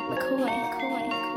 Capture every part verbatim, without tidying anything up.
McCoy, McCoy, McCoy.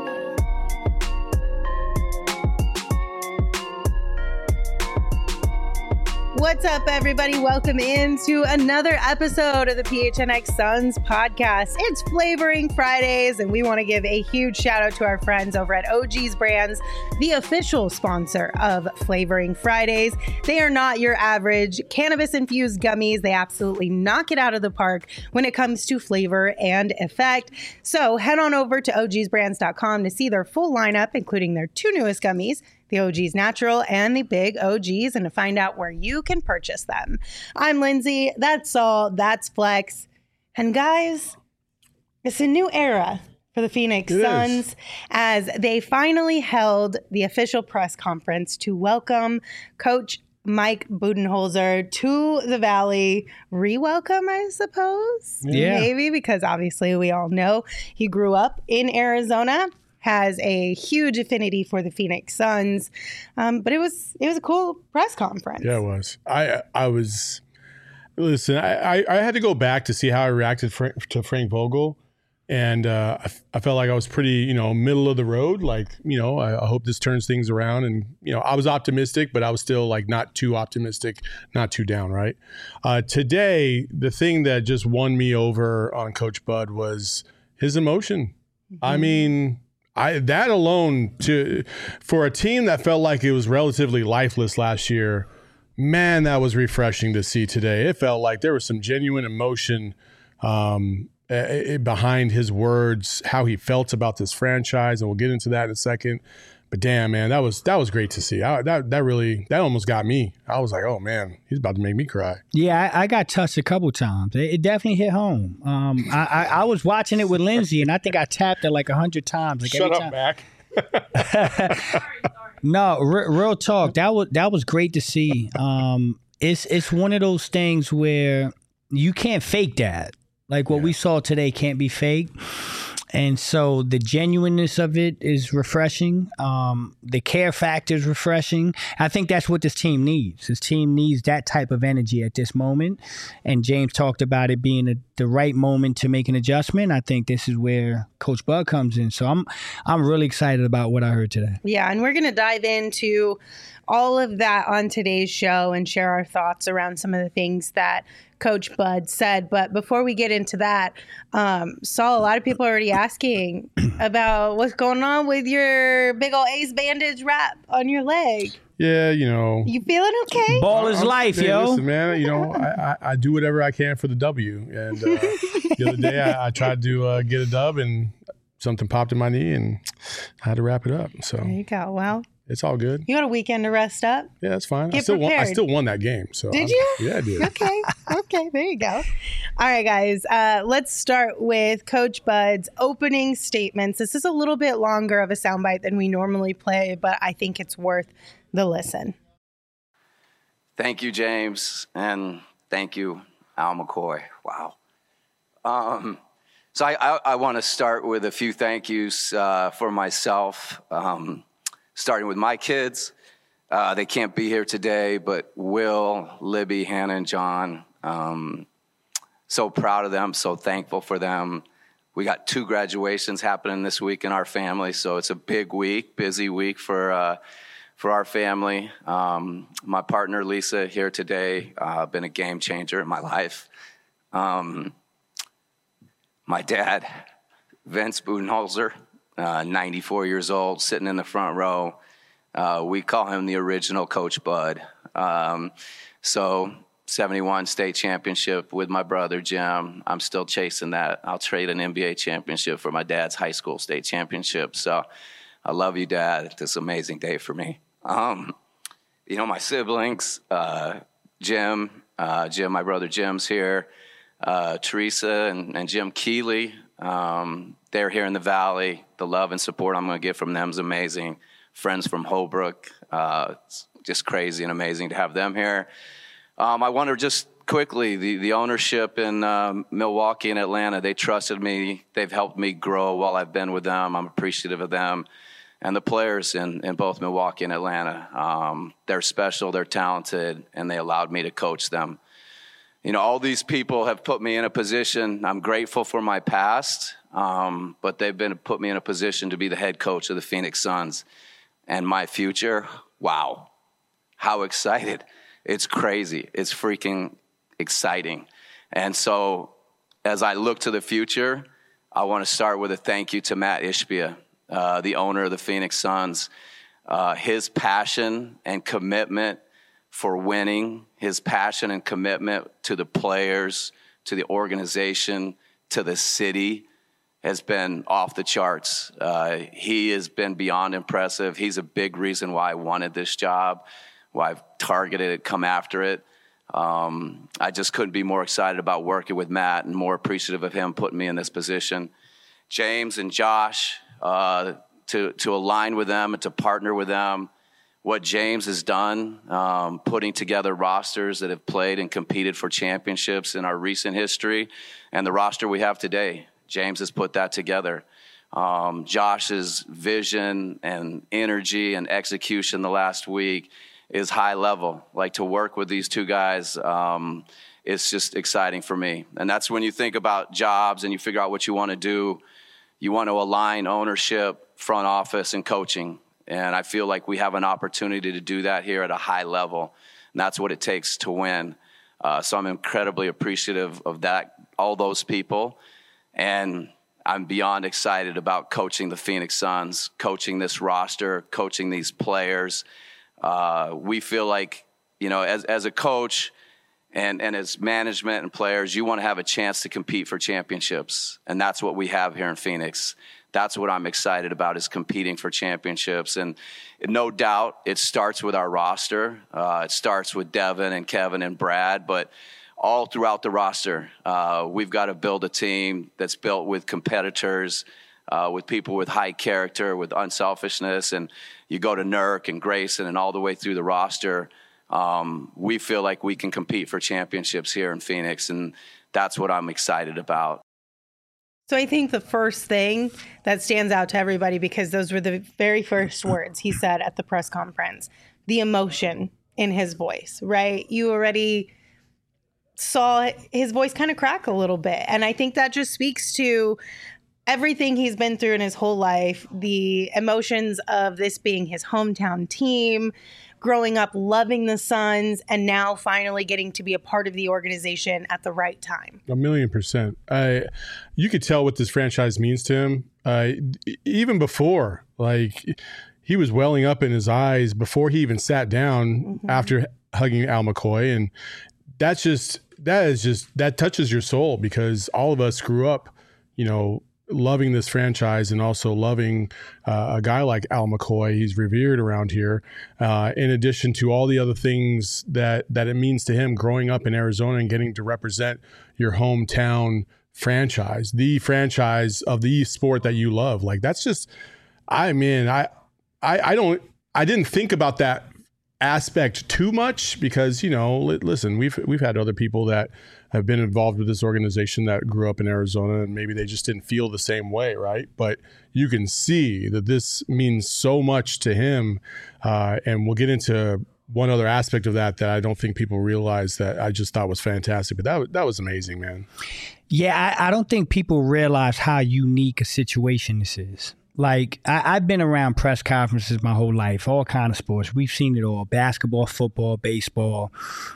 What's up, everybody? Welcome into another episode of the P H N X Suns podcast. It's Flavoring Fridays, and we want to give a huge shout out to our friends over at O G's Brands, the official sponsor of Flavoring Fridays. They are not your average cannabis-infused gummies. They absolutely knock it out of the park when it comes to flavor and effect. So head on over to O Gs brands dot com to see their full lineup, including their two newest gummies, the O G's Natural and the Big O Gs, and to find out where you can purchase them. I'm Lindsay. That's Saul. That's Flex. And guys, it's a new era for the Phoenix It Suns is. as they finally held the official press conference to welcome Coach Mike Budenholzer to the Valley. Re-welcome, I suppose? Yeah. Maybe, because obviously we all know he grew up in Arizona, has a huge affinity for the Phoenix Suns. Um, but it was it was a cool press conference. Yeah, it was. I I was listen. I, I, I had to go back to see how I reacted Fra- to Frank Vogel, and uh, I, f- I felt like I was pretty, you know, middle of the road. Like, you know, I, I hope this turns things around. And you know, I was optimistic, but I was still like not too optimistic, not too down. Right. Uh, today, the thing that just won me over on Coach Bud was his emotion. Mm-hmm. I mean. I, that alone, to for a team that felt like it was relatively lifeless last year, man, that was refreshing to see today. It felt like there was some genuine emotion um, uh, behind his words, how he felt about this franchise, and we'll get into that in a second. But damn, man, that was that was great to see. I, that that really that almost got me. I was like, oh man, he's about to make me cry. Yeah, I, I got touched a couple times. It, it definitely hit home. Um, I, I, I was watching it with Lindsay, and I think I tapped it like a hundred times. Like Shut every up, time. Mac. No, re- real talk. That was that was great to see. Um, it's it's one of those things where you can't fake that. Like what Yeah. we saw today can't be faked. And so the genuineness of it is refreshing. Um, the care factor is refreshing. I think that's what this team needs. This team needs that type of energy at this moment. And James talked about it being a, the right moment to make an adjustment. I think this is where Coach Bud comes in. So I'm I'm really excited about what I heard today. Yeah, and we're going to dive into all of that on today's show and share our thoughts around some of the things that Coach Bud said. But before we get into that, um, Saul, a lot of people are already asking about what's going on with your big old ace bandage wrap on your leg. Yeah, you know. You feeling okay? Ball is I'm- life, hey, yo. Listen, man, you know, I, I, I do whatever I can for the W. And uh, the other day I, I tried to uh, get a dub and something popped in my knee and I had to wrap it up. So There you go. Well, it's all good. you got a weekend to rest up. Yeah, it's fine. I Get still won. I prepared. still won that game. So Did I'm- you? Yeah, I did. Okay. Okay. There you go. All right, guys. Uh, let's start with Coach Bud's opening statements. This is a little bit longer of a soundbite than we normally play, but I think it's worth the listen. Thank you, James, and thank you, Al McCoy. Wow. Um, so I, I, I want to start with a few thank yous uh, for myself, um, starting with my kids. Uh, they can't be here today, but Will, Libby, Hannah, and John, um, so proud of them, so thankful for them. We got two graduations happening this week in our family, so it's a big week, busy week for uh, for our family. Um, my partner, Lisa, here today, uh, been a game changer in my life. Um, my dad, Vince Budenholzer, uh, ninety-four years old, sitting in the front row. Uh, we call him the original Coach Bud. Um, so seventy-one state championship with my brother, Jim. I'm still chasing that. I'll trade an N B A championship for my dad's high school state championship. So I love you, Dad. This is an amazing day for me. Um, you know, my siblings, uh, Jim, uh, Jim, my brother Jim's here, uh, Teresa and, and Jim Keeley, um, they're here in the Valley. The love and support I'm going to get from them is amazing. Friends from Holbrook, uh, it's just crazy and amazing to have them here. Um, I wonder just quickly, the, the ownership in um, Milwaukee and Atlanta, they trusted me. They've helped me grow while I've been with them. I'm appreciative of them. And the players in, in both Milwaukee and Atlanta, um, they're special, they're talented, and they allowed me to coach them. you know, all these people have put me in a position. I'm grateful for my past, um, but they've been put me in a position to be the head coach of the Phoenix Suns. And my future, wow, how excited. It's crazy. It's freaking exciting. And so as I look to the future, I want to start with a thank you to Matt Ishbia, uh, the owner of the Phoenix Suns. Uh, his passion and commitment for winning, his passion and commitment to the players, to the organization, to the city has been off the charts. Uh, he has been beyond impressive. He's a big reason why I wanted this job, why I've targeted it, come after it. Um, I just couldn't be more excited about working with Matt and more appreciative of him putting me in this position. James and Josh, uh, to, to align with them and to partner with them. What James has done, um, putting together rosters that have played and competed for championships in our recent history, and the roster we have today. James has put that together. Um, Josh's vision and energy and execution the last week is high level. Like, to work with these two guys, um, it's just exciting for me. And that's when you think about jobs and you figure out what you want to do. You want to align ownership, front office, and coaching. And I feel like we have an opportunity to do that here at a high level. And that's what it takes to win. Uh, so I'm incredibly appreciative of that, all those people. And I'm beyond excited about coaching the Phoenix Suns, coaching this roster, coaching these players. Uh, we feel like, you know, as, as a coach and, and as management and players, you want to have a chance to compete for championships. And that's what we have here in Phoenix. That's what I'm excited about, is competing for championships. And no doubt it starts with our roster. Uh, it starts with Devin and Kevin and Brad, but all throughout the roster, uh, we've got to build a team that's built with competitors, uh, with people with high character, with unselfishness. And you go to Nurk and Grayson and all the way through the roster. Um, we feel like we can compete for championships here in Phoenix, and that's what I'm excited about. So I think the first thing that stands out to everybody, because those were the very first words he said at the press conference, the emotion in his voice, right? You already saw his voice kind of crack a little bit. And I think that just speaks to everything he's been through in his whole life, the emotions of this being his hometown team, growing up loving the Suns, and now finally getting to be a part of the organization at the right time. A million percent. I, you could tell what this franchise means to him. Uh, even before, like, he was welling up in his eyes before he even sat down mm-hmm. after hugging Al McCoy. And that's just, that is just, that touches your soul, because all of us grew up, you know, loving this franchise and also loving uh, a guy like Al McCoy. He's revered around here, uh, in addition to all the other things that, that it means to him growing up in Arizona and getting to represent your hometown franchise, the franchise of the sport that you love. Like, that's just, I mean, I, I, I don't, I didn't think about that aspect too much, because, you know, listen, we've, we've had other people that have been involved with this organization that grew up in Arizona, and maybe they just didn't feel the same way, right? But you can see that this means so much to him, uh, and we'll get into one other aspect of that that I don't think people realize that I just thought was fantastic. But that, that was amazing, man. Yeah, I, I don't think people realize how unique a situation this is. Like, I, I've been around press conferences my whole life, all kind of sports. We've seen it all: basketball, football, baseball.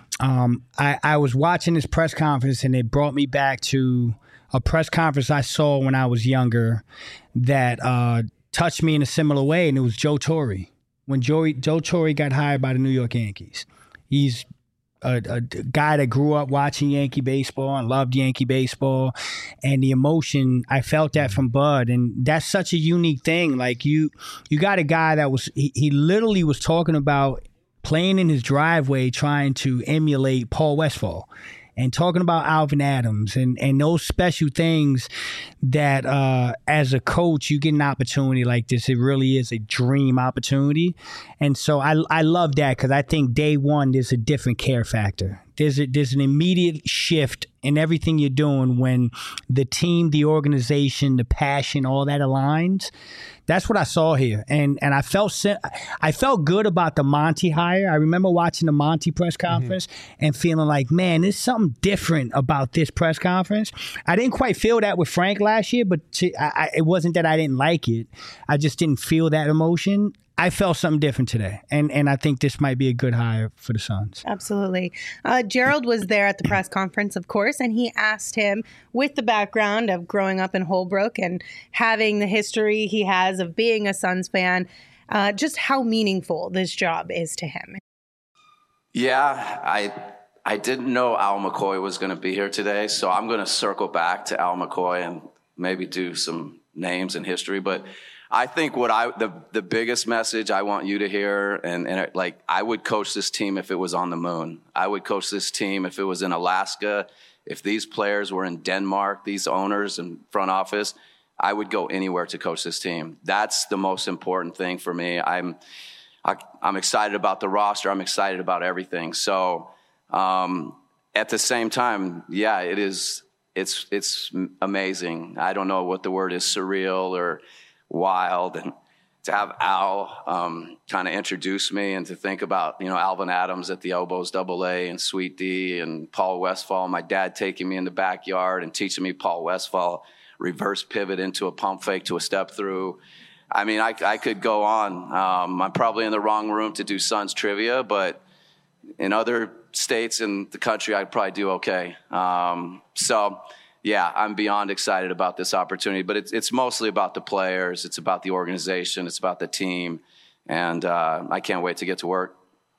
Um, I, I was watching this press conference, and it brought me back to a press conference I saw when I was younger that uh, touched me in a similar way, and it was Joe Torre. When Joe, Joe Torre got hired by the New York Yankees. He's A, a guy that grew up watching Yankee baseball and loved Yankee baseball, and the emotion, I felt that from Bud. And that's such a unique thing. Like, you you got a guy that was, he, he literally was talking about playing in his driveway trying to emulate Paul Westphal, and talking about Alvin Adams and, and those special things that uh, as a coach, you get an opportunity like this. It really is a dream opportunity. And so I, I love that, because I think day one, there's a different care factor. There's a, there's an immediate shift in everything you're doing when the team, the organization, the passion, all that aligns. That's what I saw here, and and I felt I felt good about the Monty hire. I remember watching the Monty press conference mm-hmm. and feeling like, man, there's something different about this press conference. I didn't quite feel that with Frank last year, but to, I, I, it wasn't that I didn't like it. I just didn't feel that emotion. I felt something different today, and and I think this might be a good hire for the Suns. Absolutely. Uh, Gerald was there at the press conference, of course, and he asked him, with the background of growing up in Holbrook and having the history he has of being a Suns fan, uh, just how meaningful this job is to him. Yeah, I I didn't know Al McCoy was going to be here today, so I'm going to circle back to Al McCoy and maybe do some names and history, but I think what I the the biggest message I want you to hear, and, and it, like I would coach this team if it was on the moon. I would coach this team if it was in Alaska. If these players were in Denmark, these owners and front office, I would go anywhere to coach this team. That's the most important thing for me. I'm I, I'm excited about the roster. I'm excited about everything. So um, at the same time, yeah, it is. It's it's amazing. I don't know what the word is, surreal or wild, and to have Al um, kind of introduce me and to think about, you know, Alvin Adams at the elbows, double A, and Sweet D, and Paul Westphal, my dad taking me in the backyard and teaching me Paul Westphal reverse pivot into a pump fake to a step through. I mean, I, I could go on. Um, I'm probably in the wrong room to do Suns trivia, but in other states in the country, I'd probably do okay. Um, so yeah, I'm beyond excited about this opportunity, but it's it's mostly about the players. It's about the organization. It's about the team. And uh, I can't wait to get to work.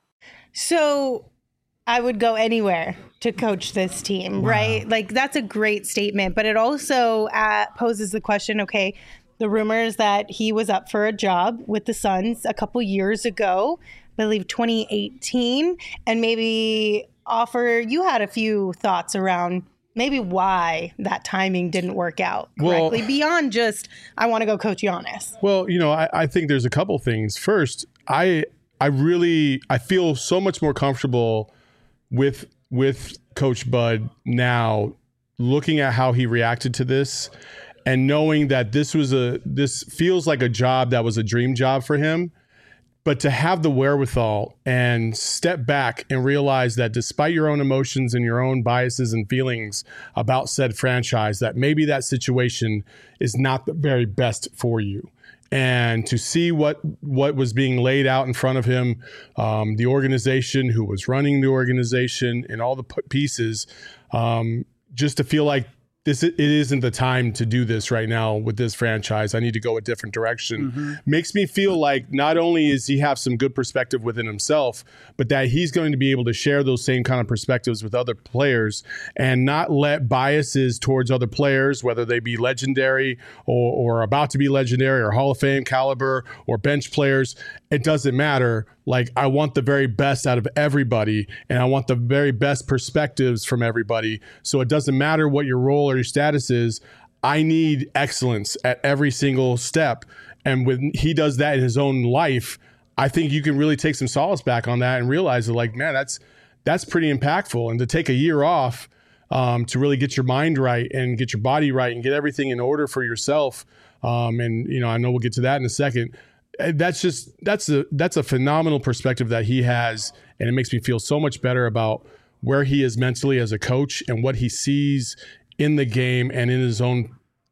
So I would go anywhere to coach this team, wow. right? Like, that's a great statement, but it also uh, poses the question, okay, the rumors that he was up for a job with the Suns a couple years ago, I believe twenty eighteen, and maybe offer, you had a few thoughts around maybe why that timing didn't work out correctly, well, beyond just, I want to go coach Giannis. Well, you know, I, I think there's a couple things. First, I I really, I feel so much more comfortable with with Coach Bud now, looking at how he reacted to this and knowing that this was a, this feels like a job that was a dream job for him. But to have the wherewithal and step back and realize that despite your own emotions and your own biases and feelings about said franchise, that maybe that situation is not the very best for you. And to see what what was being laid out in front of him, um, the organization, who was running the organization, and all the pieces, um, just to feel like This it isn't the time to do this right now with this franchise. I need to go a different direction. Mm-hmm. Makes me feel like not only is he have some good perspective within himself, but that he's going to be able to share those same kind of perspectives with other players and not let biases towards other players, whether they be legendary or, or about to be legendary or Hall of Fame caliber or bench players. It doesn't matter. Like, I want the very best out of everybody, and I want the very best perspectives from everybody. So it doesn't matter what your role or your status is. I need excellence at every single step. And when he does that in his own life, I think you can really take some solace back on that and realize that, like, man, that's that's pretty impactful. And to take a year off um, to really get your mind right and get your body right and get everything in order for yourself. Um, and, you know, I know we'll get to that in a second. That's just that's a that's a phenomenal perspective that he has, and it makes me feel so much better about where he is mentally as a coach and what he sees in the game and in his own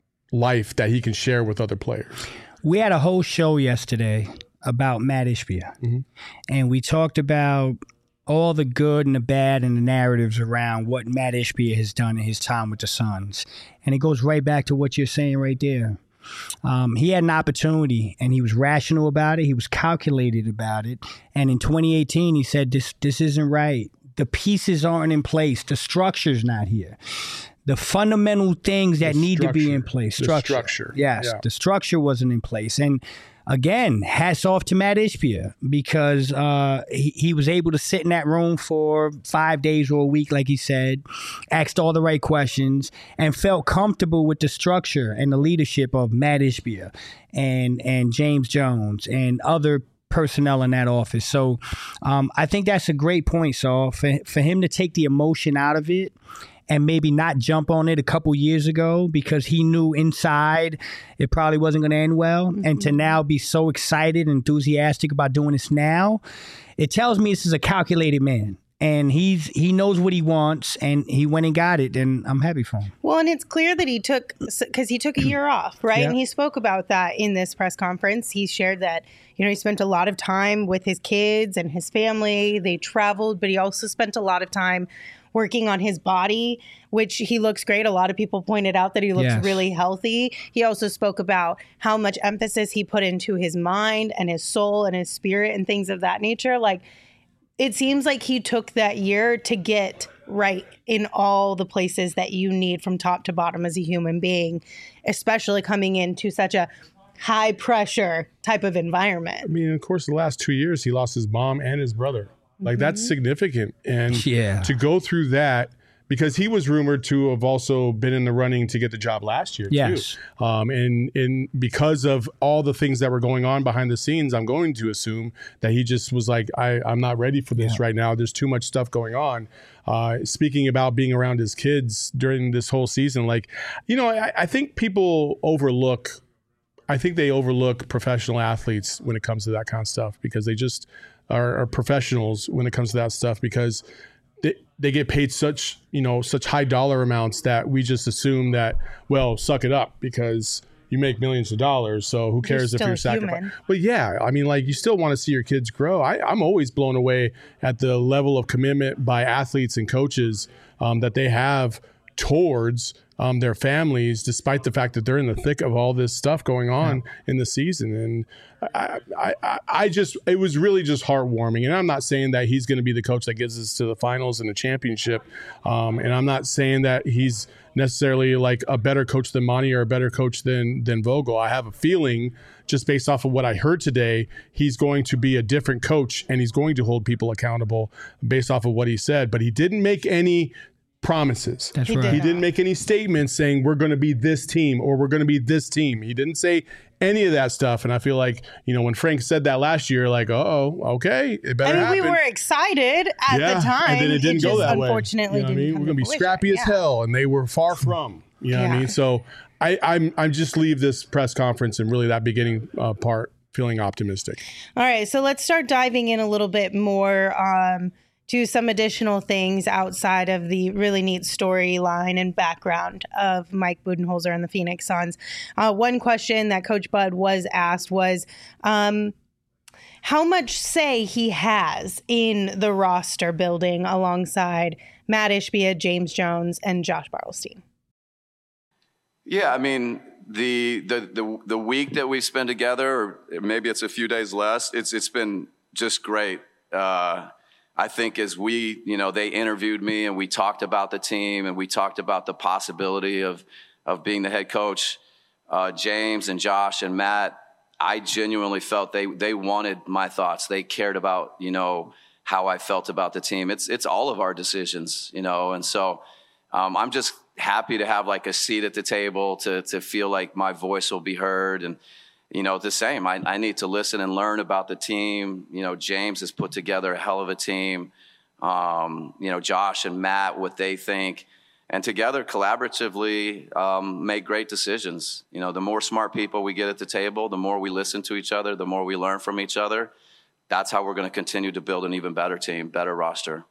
life that he can share with other players. We had a whole show yesterday about Matt Ishbia, mm-hmm. and we talked about all the good and the bad and the narratives around what Matt Ishbia has done in his time with the Suns, and it goes right back to what you're saying right there. Um, he had an opportunity, and he was rational about it. He was calculated about it. And in twenty eighteen, he said, this this isn't right. The pieces aren't in place. The structure's not here. The fundamental things that the need structure. to be in place. Structure. The structure. Yes, yeah. The structure wasn't in place. And again, hats off to Matt Ishbia, because uh, he, he was able to sit in that room for five days or a week, like he said, asked all the right questions, and felt comfortable with the structure and the leadership of Matt Ishbia and, and James Jones and other personnel in that office. So um, I think that's a great point, Saul, for, for him to take the emotion out of it and maybe not jump on it a couple years ago because he knew inside it probably wasn't going to end well. Mm-hmm. And to now be so excited and enthusiastic about doing this now, it tells me this is a calculated man. And he's he knows what he wants, and he went and got it, and I'm happy for him. Well, and it's clear that he took, because he took a year off, right? Yeah. And he spoke about that in this press conference. He shared that, you know, he spent a lot of time with his kids and his family. They traveled, but he also spent a lot of time working on his body, which he looks great. A lot of people pointed out that he looks yes. really healthy. He also spoke about how much emphasis he put into his mind and his soul and his spirit and things of that nature. Like, it seems like he took that year to get right in all the places that you need from top to bottom as a human being, especially coming into such a high pressure type of environment. I mean, of course, the last two years, he lost his mom and his brother. Like, mm-hmm. that's significant. And yeah. to go through that, because he was rumored to have also been in the running to get the job last year, yes. too. Um, and, and because of all the things that were going on behind the scenes, I'm going to assume that he just was like, I, I'm not ready for this yeah. right now. There's too much stuff going on. Uh, speaking about being around his kids during this whole season, like, you know, I, I think people overlook, I think they overlook professional athletes when it comes to that kind of stuff, because they just are, are professionals when it comes to that stuff, because They, they get paid such, you know, such high dollar amounts that we just assume that, well, suck it up because you make millions of dollars. So who cares if you're sacrificing? But yeah, I mean, like, you still want to see your kids grow. I, I'm always blown away at the level of commitment by athletes and coaches um, that they have towards um, their families, despite the fact that they're in the thick of all this stuff going on yeah. in the season. And I, I, I just, it was really just heartwarming. And I'm not saying that he's going to be the coach that gets us to the finals and the championship. Um, and I'm not saying that he's necessarily like a better coach than Monty or a better coach than, than Vogel. I have a feeling, just based off of what I heard today, he's going to be a different coach and he's going to hold people accountable based off of what he said. But he didn't make any promises. That's he right. Did he didn't make any statements saying we're going to be this team or we're going to be this team. He didn't say any of that stuff. And I feel like, you know, when Frank said that last year, like, oh, okay, it better I mean, happen. we were excited at yeah, the time. And then it didn't it go just that way. Unfortunately, you know what didn't I mean? come We're going to be fruition. scrappy yeah. as hell, and they were far from. You know yeah. what I mean? So I, I'm I'm just leave this press conference and really that beginning uh, part feeling optimistic. All right, so let's start diving in a little bit more um, to some additional things outside of the really neat storyline and background of Mike Budenholzer and the Phoenix Suns. Uh, one question that Coach Bud was asked was um, how much say he has in the roster building alongside Matt Ishbia, James Jones, and Josh Bartelstein. Yeah, I mean, the the the the week that we spent together, or maybe it's a few days less, it's it's been just great. Uh, I think as we, you know, they interviewed me and we talked about the team and we talked about the possibility of of being the head coach. Uh, James and Josh and Matt, I genuinely felt they they wanted my thoughts. They cared about, you know, how I felt about the team. It's it's all of our decisions, you know, and so um, I'm just happy to have like a seat at the table to to feel like my voice will be heard. And you know, the same. I, I need to listen and learn about the team. You know, James has put together a hell of a team. Um, you know, Josh and Matt, what they think. And together, collaboratively, um, make great decisions. You know, the more smart people we get at the table, the more we listen to each other, the more we learn from each other. That's how we're going to continue to build an even better team, better roster.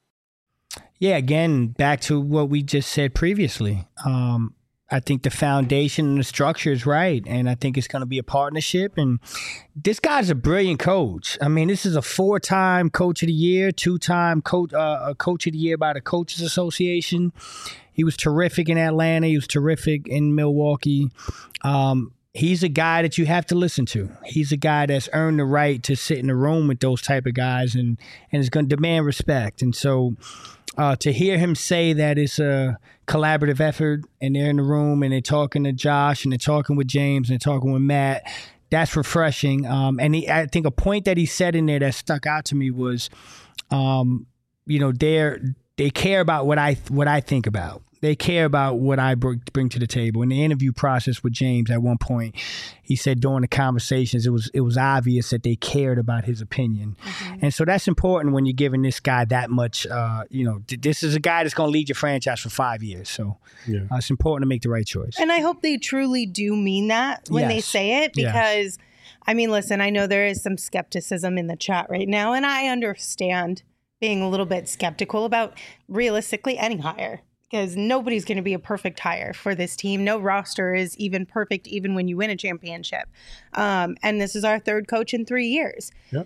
Yeah, again, back to what we just said previously. Um, I think the foundation and the structure is right, and I think it's going to be a partnership. And this guy's a brilliant coach. I mean, this is a four-time Coach of the Year, two-time coach, uh, Coach of the Year by the Coaches Association. He was terrific in Atlanta. He was terrific in Milwaukee. Um, he's a guy that you have to listen to. He's a guy that's earned the right to sit in a room with those type of guys, and and is going to demand respect. And so uh, to hear him say that it's a collaborative effort and they're in the room and they're talking to Josh and they're talking with James and they're talking with Matt, that's refreshing. Um, and he, I think a point that he said in there that stuck out to me was, um, you know, they're, they care about what I what I think about. They care about what I bring to the table. In the interview process with James, at one point, he said during the conversations, it was it was obvious that they cared about his opinion, mm-hmm. and so that's important when you're giving this guy that much. Uh, you know, this is a guy that's going to lead your franchise for five years, so yeah. uh, it's important to make the right choice. And I hope they truly do mean that when yes. they say it, because, yes. I mean, listen, I know there is some skepticism in the chat right now, and I understand being a little bit skeptical about realistically any hire. Because nobody's going to be a perfect hire for this team. No roster is even perfect, even when you win a championship. Um, and this is our third coach in three years. Yep.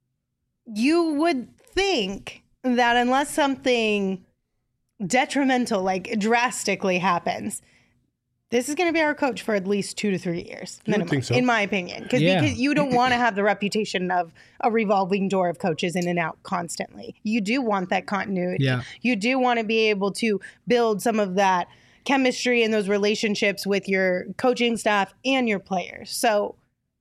You would think that unless something detrimental, like drastically happens, this is going to be our coach for at least two to three years, minimum, think so. in my opinion. Because yeah. you don't want to have the reputation of a revolving door of coaches in and out constantly. You do want that continuity. Yeah. You do want to be able to build some of that chemistry and those relationships with your coaching staff and your players. So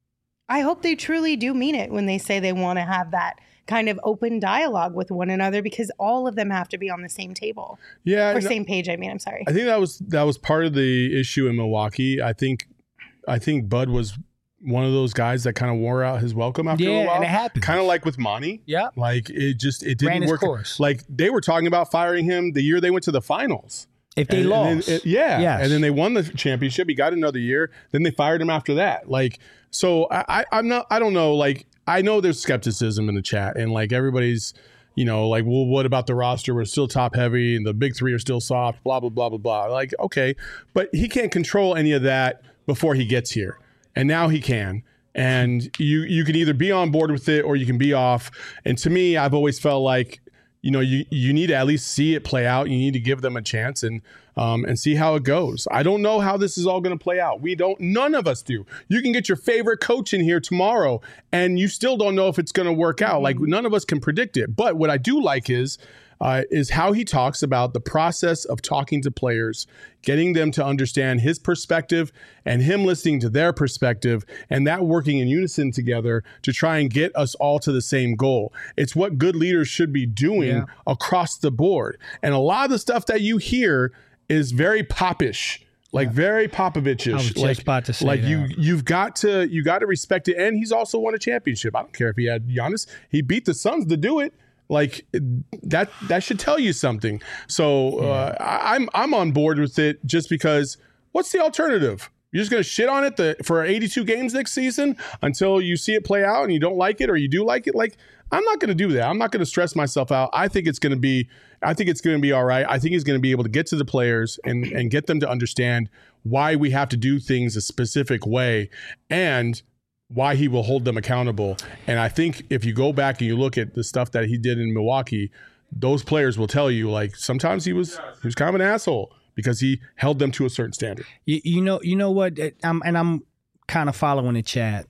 I hope they truly do mean it when they say they want to have that kind of open dialogue with one another, because all of them have to be on the same table. Yeah. Or same page, I mean, I'm sorry. I think that was that was part of the issue in Milwaukee. I think I think Bud was one of those guys that kind of wore out his welcome after yeah, a while. And it happened. Kind of like with Monty. Yeah. Like it just it didn't Ran his work. Course. Like they were talking about firing him the year they went to the finals. If they and, lost. and then, it, yeah. Yes. And then they won the championship. He got another year. Then they fired him after that. Like, so I, I I'm not I don't know, like I know there's skepticism in the chat, and like everybody's, you know, like, well, what about the roster? We're still top heavy and the big three are still soft, blah, blah, blah, blah, blah. Like, okay, but he can't control any of that before he gets here. And now he can. And you you can either be on board with it or you can be off. And to me, I've always felt like, you know, you, you need to at least see it play out. You need to give them a chance and um, and see how it goes. I don't know how this is all going to play out. We don't, none of us do. You can get your favorite coach in here tomorrow and you still don't know if it's going to work out. Like none of us can predict it. But what I do like is, uh, is how he talks about the process of talking to players, getting them to understand his perspective and him listening to their perspective, and that working in unison together to try and get us all to the same goal. It's what good leaders should be doing yeah. across the board. And a lot of the stuff that you hear is very popish, like yeah. very Popovich-ish. I was just like, about to say like that. you, you've got to, you got to respect it. And he's also won a championship. I don't care if he had Giannis. He beat the Suns to do it. Like that, that should tell you something. So uh, I, I'm, I'm on board with it just because. What's the alternative? You're just going to shit on it the, for eighty-two games next season until you see it play out and you don't like it or you do like it. Like, I'm not going to do that. I'm not going to stress myself out. I think it's going to be, I think it's going to be all right. I think he's going to be able to get to the players and, and get them to understand why we have to do things a specific way and why he will hold them accountable. And I think if you go back and you look at the stuff that he did in Milwaukee, those players will tell you, like, sometimes he was, he was kind of an asshole because he held them to a certain standard. You, you know, you know what? I'm, and I'm kind of following the chat.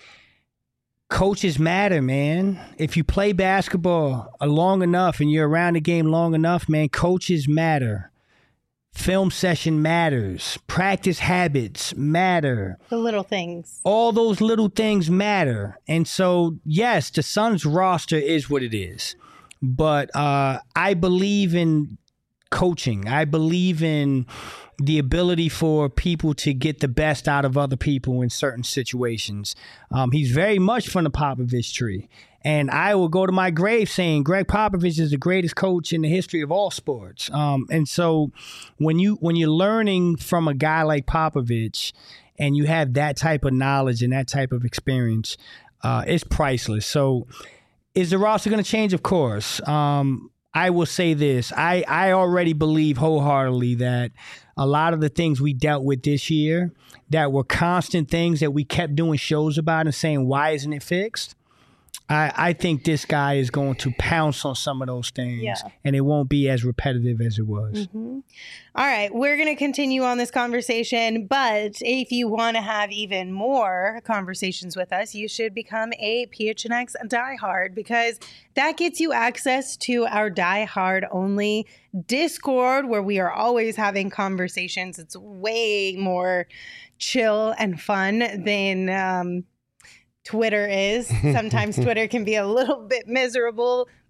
Coaches matter, man. If you play basketball long enough and you're around the game long enough, man, coaches matter. Film session matters. Practice habits matter. The little things. All those little things matter. And so, yes, the Suns roster is what it is. But uh, I believe in coaching. I believe in the ability for people to get the best out of other people in certain situations. Um, he's very much from the Popovich tree. And I will go to my grave saying Greg Popovich is the greatest coach in the history of all sports. Um, and so when, you, when you're learning from a guy like Popovich and you have that type of knowledge and that type of experience, uh, it's priceless. So is the roster going to change? Of course. Um, I will say this. I, I already believe wholeheartedly that a lot of the things we dealt with this year that were constant things that we kept doing shows about and saying, why isn't it fixed? I, I think this guy is going to pounce on some of those things, yeah. and it won't be as repetitive as it was. Mm-hmm. All right, we're going to continue on this conversation, but if you want to have even more conversations with us, you should become a P H N X diehard, because that gets you access to our diehard only Discord, where we are always having conversations. It's way more chill and fun than um, Twitter is. Sometimes Twitter can be a little bit miserable,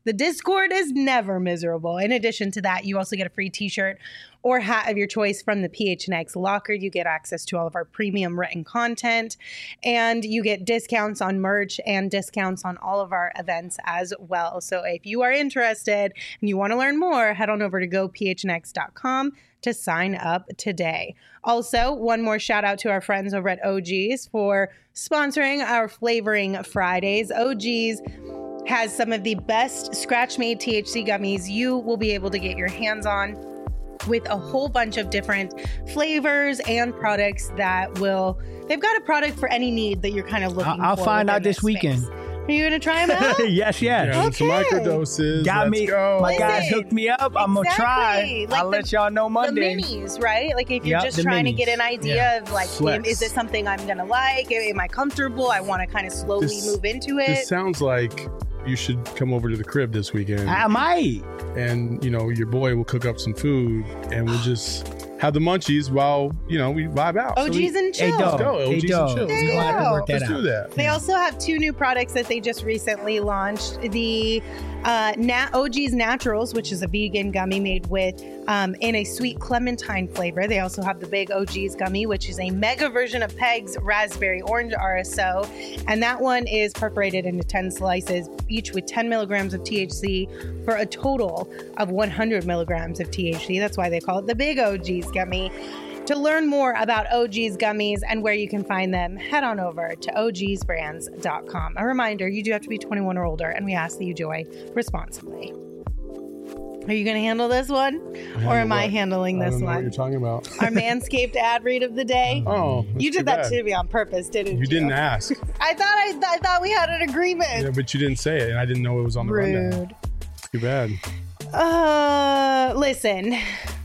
The Discord is never miserable. In addition to that, you also get a free t-shirt or hat of your choice from the P H N X locker. You get access to all of our premium written content, and you get discounts on merch and discounts on all of our events as well. So if you are interested and you want to learn more, head on over to go p h n x dot com to sign up today. Also, one more shout out to our friends over at O G's for sponsoring our Flavoring Fridays. O G's has some of the best scratch-made T H C gummies you will be able to get your hands on, with a whole bunch of different flavors and products that will, they've got a product for any need that you're kind of looking I'll, for. I'll find out this space. weekend. Are you going to try them out? yes, yes. Yeah, Okay. some microdoses. Got Let's me. go. My Listen, guys hooked me up. I'm going to try. exactly. Like I'll the- let y'all know Monday. The minis, right? Like if you're Yep, just the trying to minis. get an idea Yeah. of like, Flex. is this something I'm going to like? Am I comfortable? I want to kind of slowly This- move into it. This sounds like you should come over to the crib this weekend, I might. and you know your boy will cook up some food, and we'll just have the munchies while you know we vibe out. O Gs So we- and Hey, chill. dog. go, Hey, O Gs and dog. chill. There We're you gonna have to go. work that Let's out. do that. They also have two new products that they just recently launched. The uh, Na- O G's Naturals, which is a vegan gummy made with um, in a sweet clementine flavor. They also have the Big O G's gummy, which is a mega version of Peg's Raspberry Orange R S O. And that one is perforated into ten slices, each with ten milligrams of T H C for a total of one hundred milligrams of T H C. That's why they call it the Big O G's gummy. To learn more about O G's gummies and where you can find them, head on over to o gs brands dot com. A reminder, you do have to be twenty-one or older, and we ask that you join responsibly. Are you going to handle this one? Or am I what? handling I this don't know what you're one? talking about. Our Manscaped ad read of the day. Oh, that's You too did that bad. to me on purpose, didn't you? You didn't ask. I thought I, I thought we had an agreement. Yeah, but you didn't say it, and I didn't know it was on the rundown. Rude. Too bad. Uh, listen,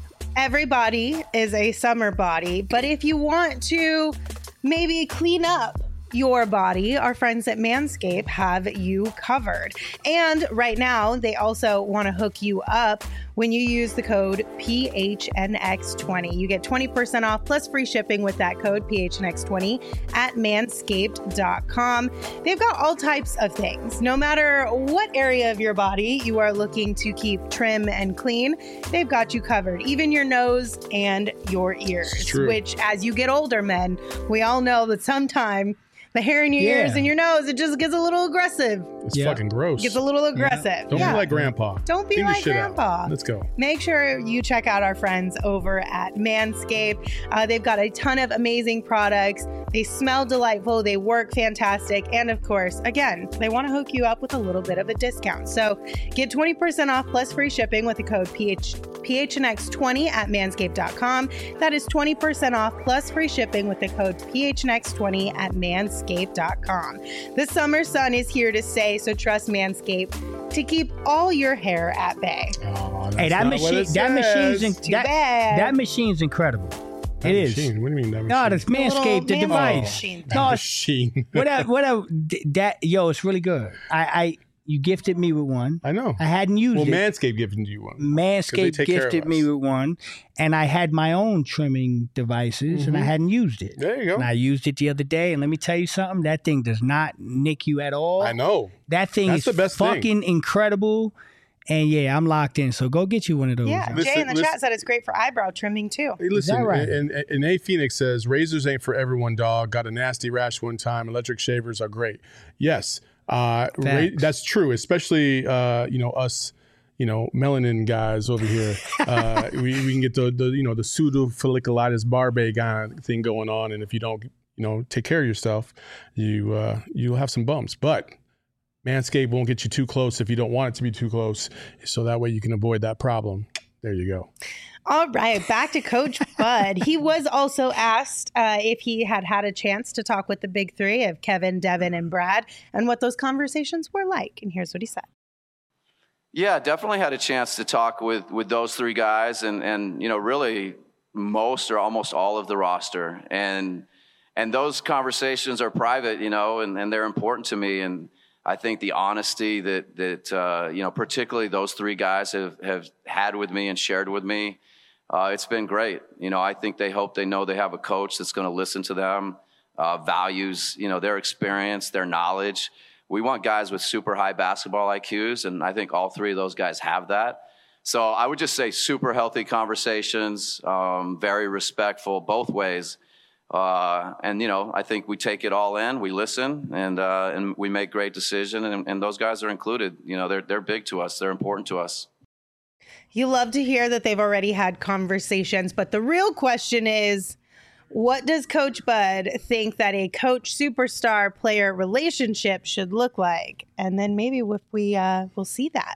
everybody is a summer body, but if you want to maybe clean up your body, our friends at Manscaped have you covered. And right now, they also want to hook you up when you use the code P H N X twenty. You get twenty percent off plus free shipping with that code P H N X twenty at manscaped dot com. They've got all types of things. No matter what area of your body you are looking to keep trim and clean, they've got you covered. Even your nose and your ears, It's true. which as you get older, men, we all know that sometime the hair in your Yeah. ears and your nose, it just gets a little aggressive. It's Yeah. fucking gross. Gets a little aggressive. Don't Yeah. be like grandpa. Don't be Clean the like shit out. grandpa. Let's go. Make sure you check out our friends over at Manscaped. Uh, they've got a ton of amazing products. They smell delightful. They work fantastic. And of course, again, they want to hook you up with a little bit of a discount. So get twenty percent off plus free shipping with the code P H, P H N X twenty at manscaped dot com. That is twenty percent off plus free shipping with the code P H N X twenty at manscaped dot com. The summer sun is here to stay, so trust Manscaped to keep all your hair at bay. Oh, that's Hey, that not what machine, it that machine's says. in, Too that, bad. that machine's incredible. That It is. machine. What do you mean that machine? No, that's Manscaped, the little device. machine That No, it's- machine. whatever, whatever. d- That yo, it's really good. I, I, you gifted me with one. I know. I hadn't used Well, it. Manscaped gifted you one. 'Cause they Manscaped take care of gifted me us. with one, and I had my own trimming devices, and I hadn't used it. There you go. And I used it the other day, and let me tell you something. That thing does not nick you at all. I know. That thing That's is the best thing. fucking incredible. And yeah, I'm locked in. So go get you one of those. Yeah, Listen- Jay in the listen- chat said it's great for eyebrow trimming too. Hey, listen, that right? and, and, and A Phoenix says razors ain't for everyone, dog. Got a nasty rash one time. Electric shavers are great. Yes, uh, ra- Facts. that's true. Especially uh, you know us, you know melanin guys over here. uh, we, we can get the, the you know the pseudofolliculitis barbae kind of thing going on, and if you don't you know take care of yourself, you uh, you'll have some bumps. But Manscaped won't get you too close if you don't want it to be too close, so that way you can avoid that problem. There you go. All right, back to Coach Bud. He was also asked uh, if he had had a chance to talk with the big three of Kevin, Devin, and Brad, and what those conversations were like. And here's what he said. Yeah, definitely had a chance to talk with, with those three guys and, and, you know, really most or almost all of the roster. And and those conversations are private, you know, and, and they're important to me. And I think the honesty that, that uh, you know, particularly those three guys have, have had with me and shared with me, uh, it's been great. You know, I think they hope they know they have a coach that's going to listen to them, uh, values, you know, their experience, their knowledge, We want guys with super high basketball I Qs, and I think all three of those guys have that. So I would just say super healthy conversations, um, very respectful both ways. Uh, and, you know, I think we take it all in, we listen, and uh, and we make great decisions, and, and those guys are included. You know, they're they're big to us. They're important to us. You love to hear that they've already had conversations, but the real question is, what does Coach Bud think that a coach superstar player relationship should look like? And then maybe if we uh, will see that.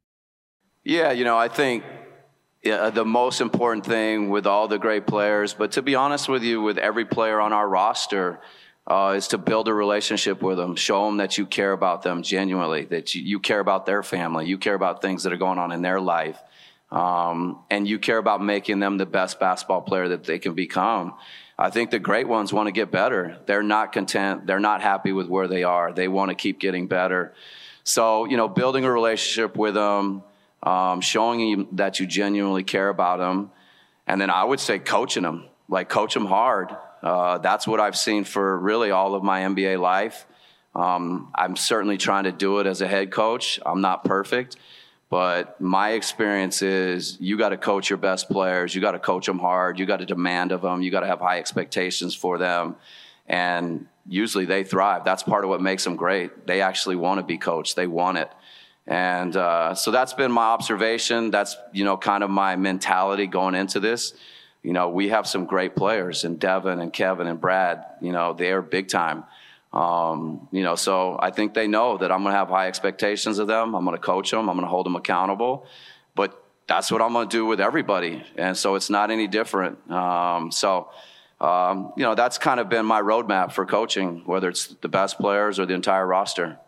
Yeah, you know, I think yeah, the most important thing with all the great players, but to be honest with you, with every player on our roster, uh, is to build a relationship with them, show them that you care about them genuinely, that you, you care about their family, you care about things that are going on in their life, um, and you care about making them the best basketball player that they can become. I think the great ones want to get better. They're not content. They're not happy with where they are. They want to keep getting better. So, you know, building a relationship with them, Um, showing you that you genuinely care about them. And then I would say coaching them, like coach them hard. Uh, that's what I've seen for really all of my N B A life. Um, I'm certainly trying to do it as a head coach. I'm not perfect, but my experience is you got to coach your best players. You got to coach them hard. You got to demand of them. You got to have high expectations for them. And usually they thrive. That's part of what makes them great. They actually want to be coached. They want it. And uh, so that's been my observation. That's, you know, kind of my mentality going into this. You know, we have some great players, and Devin and Kevin and Brad, you know, they're big time. Um, you know, so I think they know that I'm going to have high expectations of them. I'm going to coach them. I'm going to hold them accountable. But that's what I'm going to do with everybody. And so it's not any different. Um, so, um, you know, that's kind of been my roadmap for coaching, whether it's the best players or the entire roster.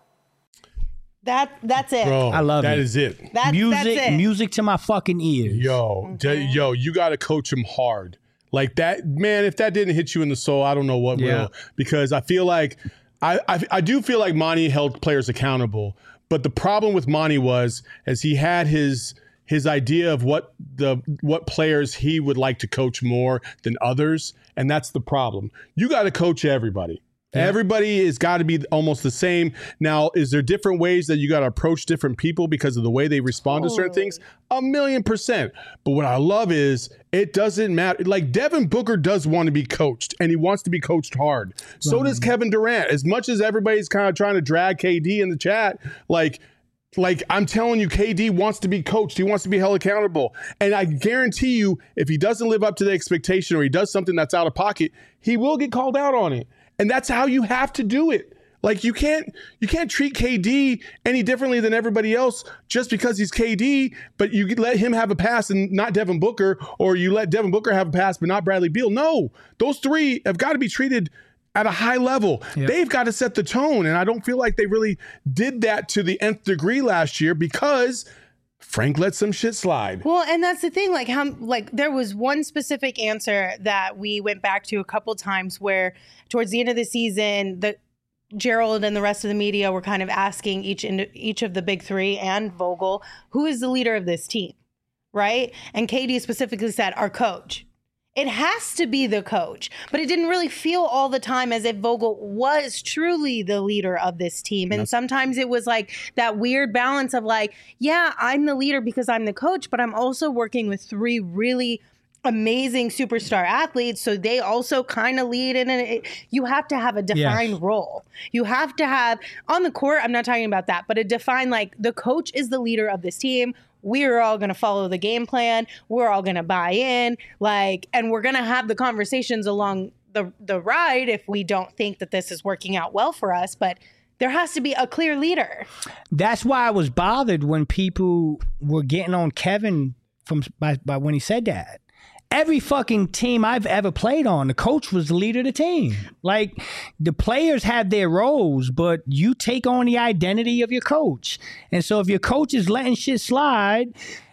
That that's it. Bro, I love that it. is it. That, music, that's it. music to my fucking ears. Yo, Okay. d- yo, you got to coach him hard. Like that, man, if that didn't hit you in the soul, I don't know what Yeah. will. Because I feel like, I, I I do feel like Monty held players accountable. But the problem with Monty was, as he had his his idea of what the what players he would like to coach more than others, and that's the problem. You got to coach everybody. Yeah. Everybody has got to be almost the same. Now, is there different ways that you got to approach different people because of the way they respond totally. to certain things? A million percent. But what I love is it doesn't matter. Like Devin Booker does want to be coached, and he wants to be coached hard. So Right. does Kevin Durant. As much as everybody's kind of trying to drag K D in the chat, like, like I'm telling you, K D wants to be coached. He wants to be held accountable. And I guarantee you, if he doesn't live up to the expectation or he does something that's out of pocket, he will get called out on it. And that's how you have to do it. Like you can't you can't treat K D any differently than everybody else just because he's K D, but you let him have a pass and not Devin Booker, or you let Devin Booker have a pass but not Bradley Beal. No, those three have got to be treated at a high level. Yep. They've got to set the tone, and I don't feel like they really did that to the nth degree last year because Frank let some shit slide. Well, and that's the thing. Like, how, like, there was one specific answer that we went back to a couple times where, towards the end of the season, the Gerald and the rest of the media were kind of asking each ind- each of the big three and Vogel, who is the leader of this team, right? And K D specifically said, our coach. It has to be the coach, but it didn't really feel all the time as if Vogel was truly the leader of this team. And sometimes it was like that weird balance of like, yeah, I'm the leader because I'm the coach, but I'm also working with three really amazing superstar athletes. So they also kind of lead in it. You have to have a defined Yes. role. You have to have on the court. I'm not talking about that, but a defined, like the coach is the leader of this team. We're all going to follow the game plan. We're all going to buy in, like, and we're going to have the conversations along the the ride if we don't think that this is working out well for us. But there has to be a clear leader. That's why I was bothered when people were getting on Kevin from by, by when he said that. Every fucking team I've ever played on, the coach was the leader of the team. Like, the players have their roles, but you take on the identity of your coach. And so if your coach is letting shit slide,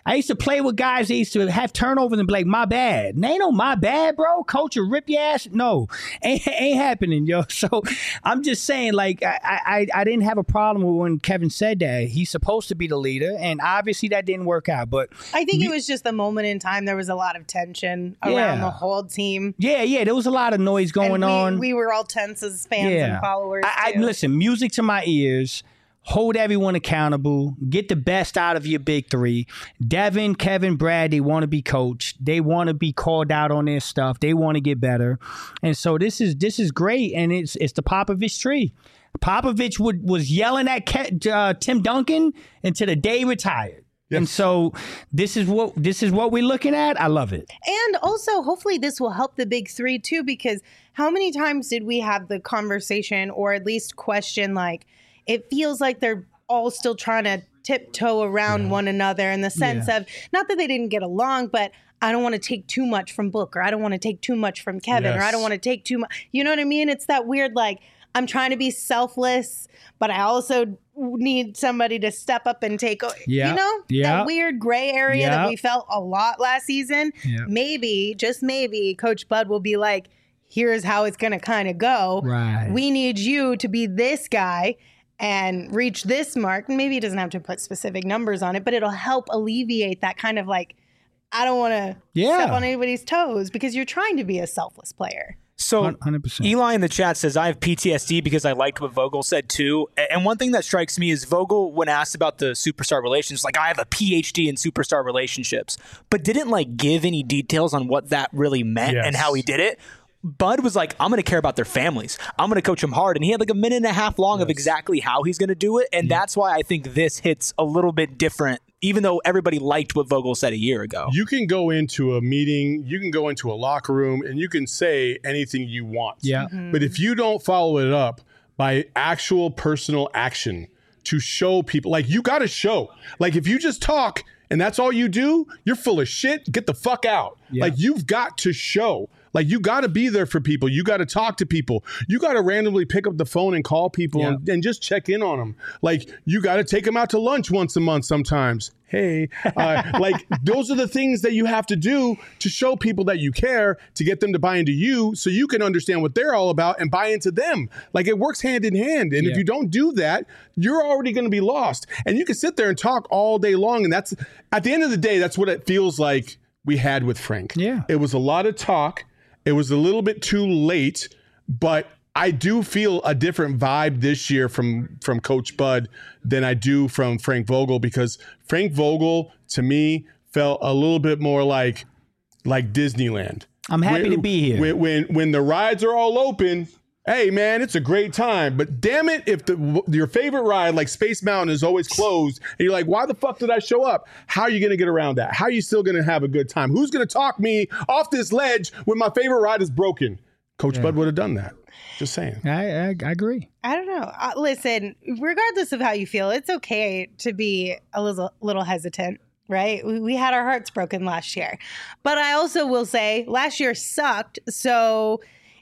I used to play with guys that used to have turnovers and be like, my bad. And ain't no my bad, bro. Coach will rip your ass. No, ain't, ain't happening, yo. So I'm just saying, like, I, I, I didn't have a problem with when Kevin said that. He's supposed to be the leader, and obviously that didn't work out. But I think it was just the moment in time. There was a lot of tension around Yeah. the whole team. Yeah, yeah, there was a lot of noise going and we, on. We were all tense as fans and followers. I, I too. listen, music to my ears. Hold everyone accountable. Get the best out of your big three. Devin, Kevin, Brad, they want to be coached. They want to be called out on their stuff. They want to get better. And so this is this is great, and it's it's the Popovich tree. Popovich would, was yelling at Ke- uh, Tim Duncan until the day he retired. Yes. And so this is what this is what we're looking at. I love it. And also, hopefully, this will help the big three too, because how many times did we have the conversation, or at least question, like, it feels like they're all still trying to tiptoe around yeah. one another in the sense yeah. of, not that they didn't get along, but I don't want to take too much from Book, or I don't want to take too much from Kevin, yes. or I don't want to take too much. You know what I mean? It's that weird, like, I'm trying to be selfless, but I also need somebody to step up and take, yeah. you know, yeah. that weird gray area yeah. that we felt a lot last season. Yeah. Maybe, just maybe, Coach Bud will be like, here's how it's going to kind of go. Right. We need you to be this guy and reach this mark. Maybe he doesn't have to put specific numbers on it, but it'll help alleviate that kind of like, I don't want to yeah. step on anybody's toes, because you're trying to be a selfless player. So one hundred percent. Eli in the chat says, I have P T S D because I liked what Vogel said too. And one thing that strikes me is Vogel, when asked about the superstar relations, like, I have a P H D in superstar relationships, but didn't like give any details on what that really meant Yes. and how he did it. Bud was like, I'm going to care about their families. I'm going to coach them hard. And he had like a minute and a half long yes. of exactly how he's going to do it. And yeah. that's why I think this hits a little bit different, even though everybody liked what Vogel said a year ago. You can go into a meeting, you can go into a locker room, and you can say anything you want. Yeah. Mm-hmm. But if you don't follow it up by actual personal action to show people, like, you got to show. Like, if you just talk and that's all you do, you're full of shit. Get the fuck out. Yeah. Like, you've got to show. Like, you got to be there for people. You got to talk to people. You got to randomly pick up the phone and call people yeah. and, and just check in on them. Like, you got to take them out to lunch once a month sometimes. Hey, uh, like, those are the things that you have to do to show people that you care, to get them to buy into you so you can understand what they're all about and buy into them. Like, it works hand in hand. And yeah. if you don't do that, you're already going to be lost. And you can sit there and talk all day long. And that's, at the end of the day, that's what it feels like we had with Frank. Yeah. It was a lot of talk. It was a little bit too late, but I do feel a different vibe this year from, from Coach Bud than I do from Frank Vogel, because Frank Vogel, to me, felt a little bit more like like Disneyland. I'm happy when, to be here. When, when when the rides are all open, hey, man, it's a great time. But damn it, if the your favorite ride, like Space Mountain, is always closed, and you're like, why the fuck did I show up? How are you going to get around that? How are you still going to have a good time? Who's going to talk me off this ledge when my favorite ride is broken? Coach yeah. Bud would have done that. Just saying. I, I, I agree. I don't know. Uh, listen, regardless of how you feel, it's okay to be a little, little hesitant, right? We, we had our hearts broken last year. But I also will say last year sucked. So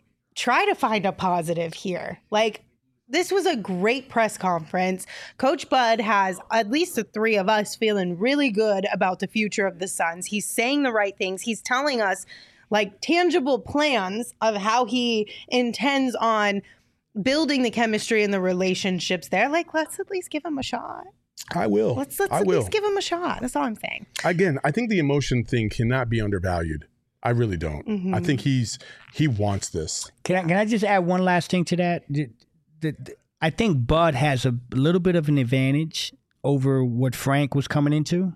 try to find a positive here. Like, this was a great press conference. Coach Bud has at least the three of us feeling really good about the future of the Suns. He's saying the right things. He's telling us, like, tangible plans of how he intends on building the chemistry and the relationships there. Like, let's at least give him a shot. I will. Let's, let's I at will. least give him a shot. That's all I'm saying. Again, I think the emotion thing cannot be undervalued. I really don't. Mm-hmm. I think he's he wants this. Can I, can I just add one last thing to that? The, the, the, I think Bud has a little bit of an advantage over what Frank was coming into.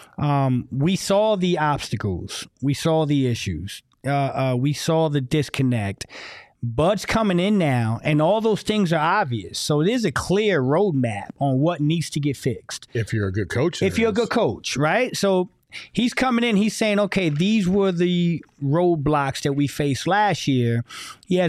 Um, we saw the obstacles. We saw the issues. Uh, uh, we saw the disconnect. Bud's coming in now, and all those things are obvious. So there's a clear roadmap on what needs to get fixed. If you're a good coach. If you're a good coach, right? So he's coming in, he's saying, okay, these were the roadblocks that we faced last year. He has a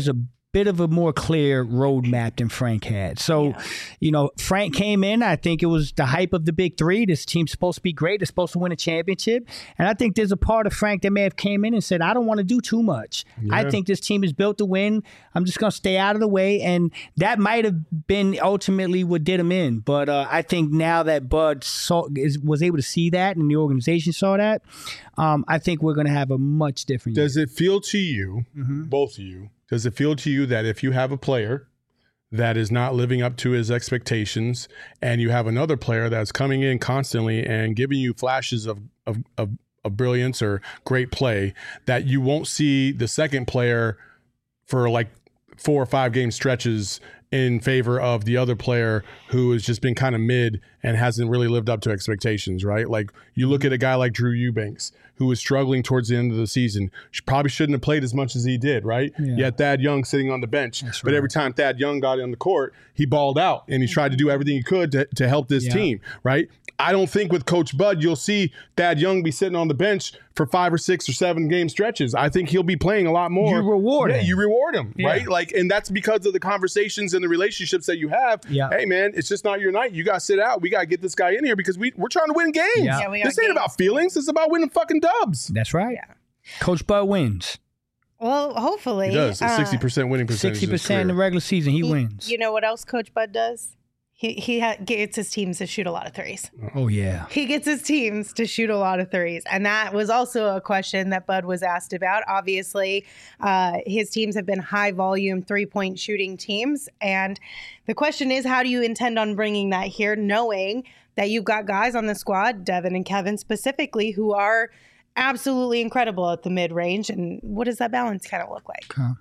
bit of a more clear roadmap than Frank had. So, yeah. you know, Frank came in, I think it was the hype of the big three. This team's supposed to be great. They're supposed to win a championship. And I think there's a part of Frank that may have came in and said, I don't want to do too much. Yeah. I think this team is built to win. I'm just going to stay out of the way. And that might have been ultimately what did him in. But uh, I think now that Bud saw, is, was able to see that and the organization saw that, um, I think we're going to have a much different Does year. it feel to you, mm-hmm. both of you, does it feel to you that if you have a player that is not living up to his expectations and you have another player that's coming in constantly and giving you flashes of, of, of, of brilliance or great play, that you won't see the second player for like four or five game stretches in favor of the other player who has just been kind of mid and hasn't really lived up to expectations, right? Like you look at a guy like Drew Eubanks, who was struggling towards the end of the season. She probably shouldn't have played as much as he did, right? Yeah. You had Thad Young sitting on the bench. That's but right. every time Thad Young got on the court, he balled out and he tried to do everything he could to, to help this yeah. team, right? I don't think with Coach Bud, you'll see Thad Young be sitting on the bench for five or six or seven game stretches. I think he'll be playing a lot more. You reward yeah, him. You reward him, yeah. right? Like, and that's because of the conversations and the relationships that you have. Yeah. Hey, man, it's just not your night. You got to sit out. We got to get this guy in here because we, we're trying to win games. Yeah. Yeah, this ain't games. about feelings. It's about winning fucking dubs. That's right. Yeah. Coach Bud wins. Well, hopefully. He does. A sixty percent winning percentage. sixty percent in the regular season, he, he wins. You know what else Coach Bud does? He he ha- gets his teams to shoot a lot of threes. Oh, yeah. He gets his teams to shoot a lot of threes. And that was also a question that Bud was asked about. Obviously, uh, his teams have been high-volume three-point shooting teams. And the question is, how do you intend on bringing that here, knowing that you've got guys on the squad, Devin and Kevin specifically, who are absolutely incredible at the mid-range? And what does that balance kind of look like? Huh.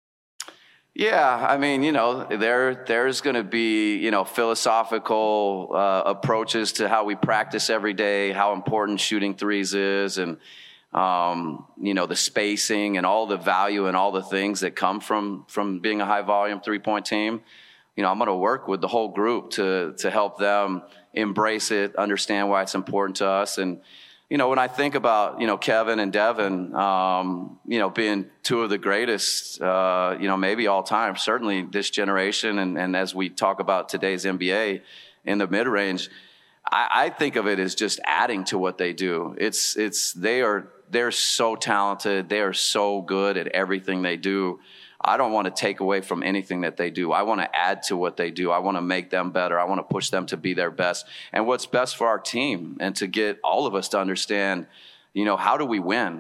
Yeah, I mean, you know, there there's going to be, you know, philosophical uh, approaches to how we practice every day, how important shooting threes is, and, um, you know, the spacing and all the value and all the things that come from from being a high-volume three-point team. You know, I'm going to work with the whole group to to help them embrace it, understand why it's important to us. And, you know, when I think about, you know, Kevin and Devin, um, you know, being two of the greatest, uh, you know, maybe all time, certainly this generation. And, and as we talk about today's N B A in the mid-range, I, I think of it as just adding to what they do. It's, it's, they are, they're so talented. They are so good at everything they do. I don't want to take away from anything that they do. I want to add to what they do. I want to make them better. I want to push them to be their best and what's best for our team, and to get all of us to understand, you know, how do we win?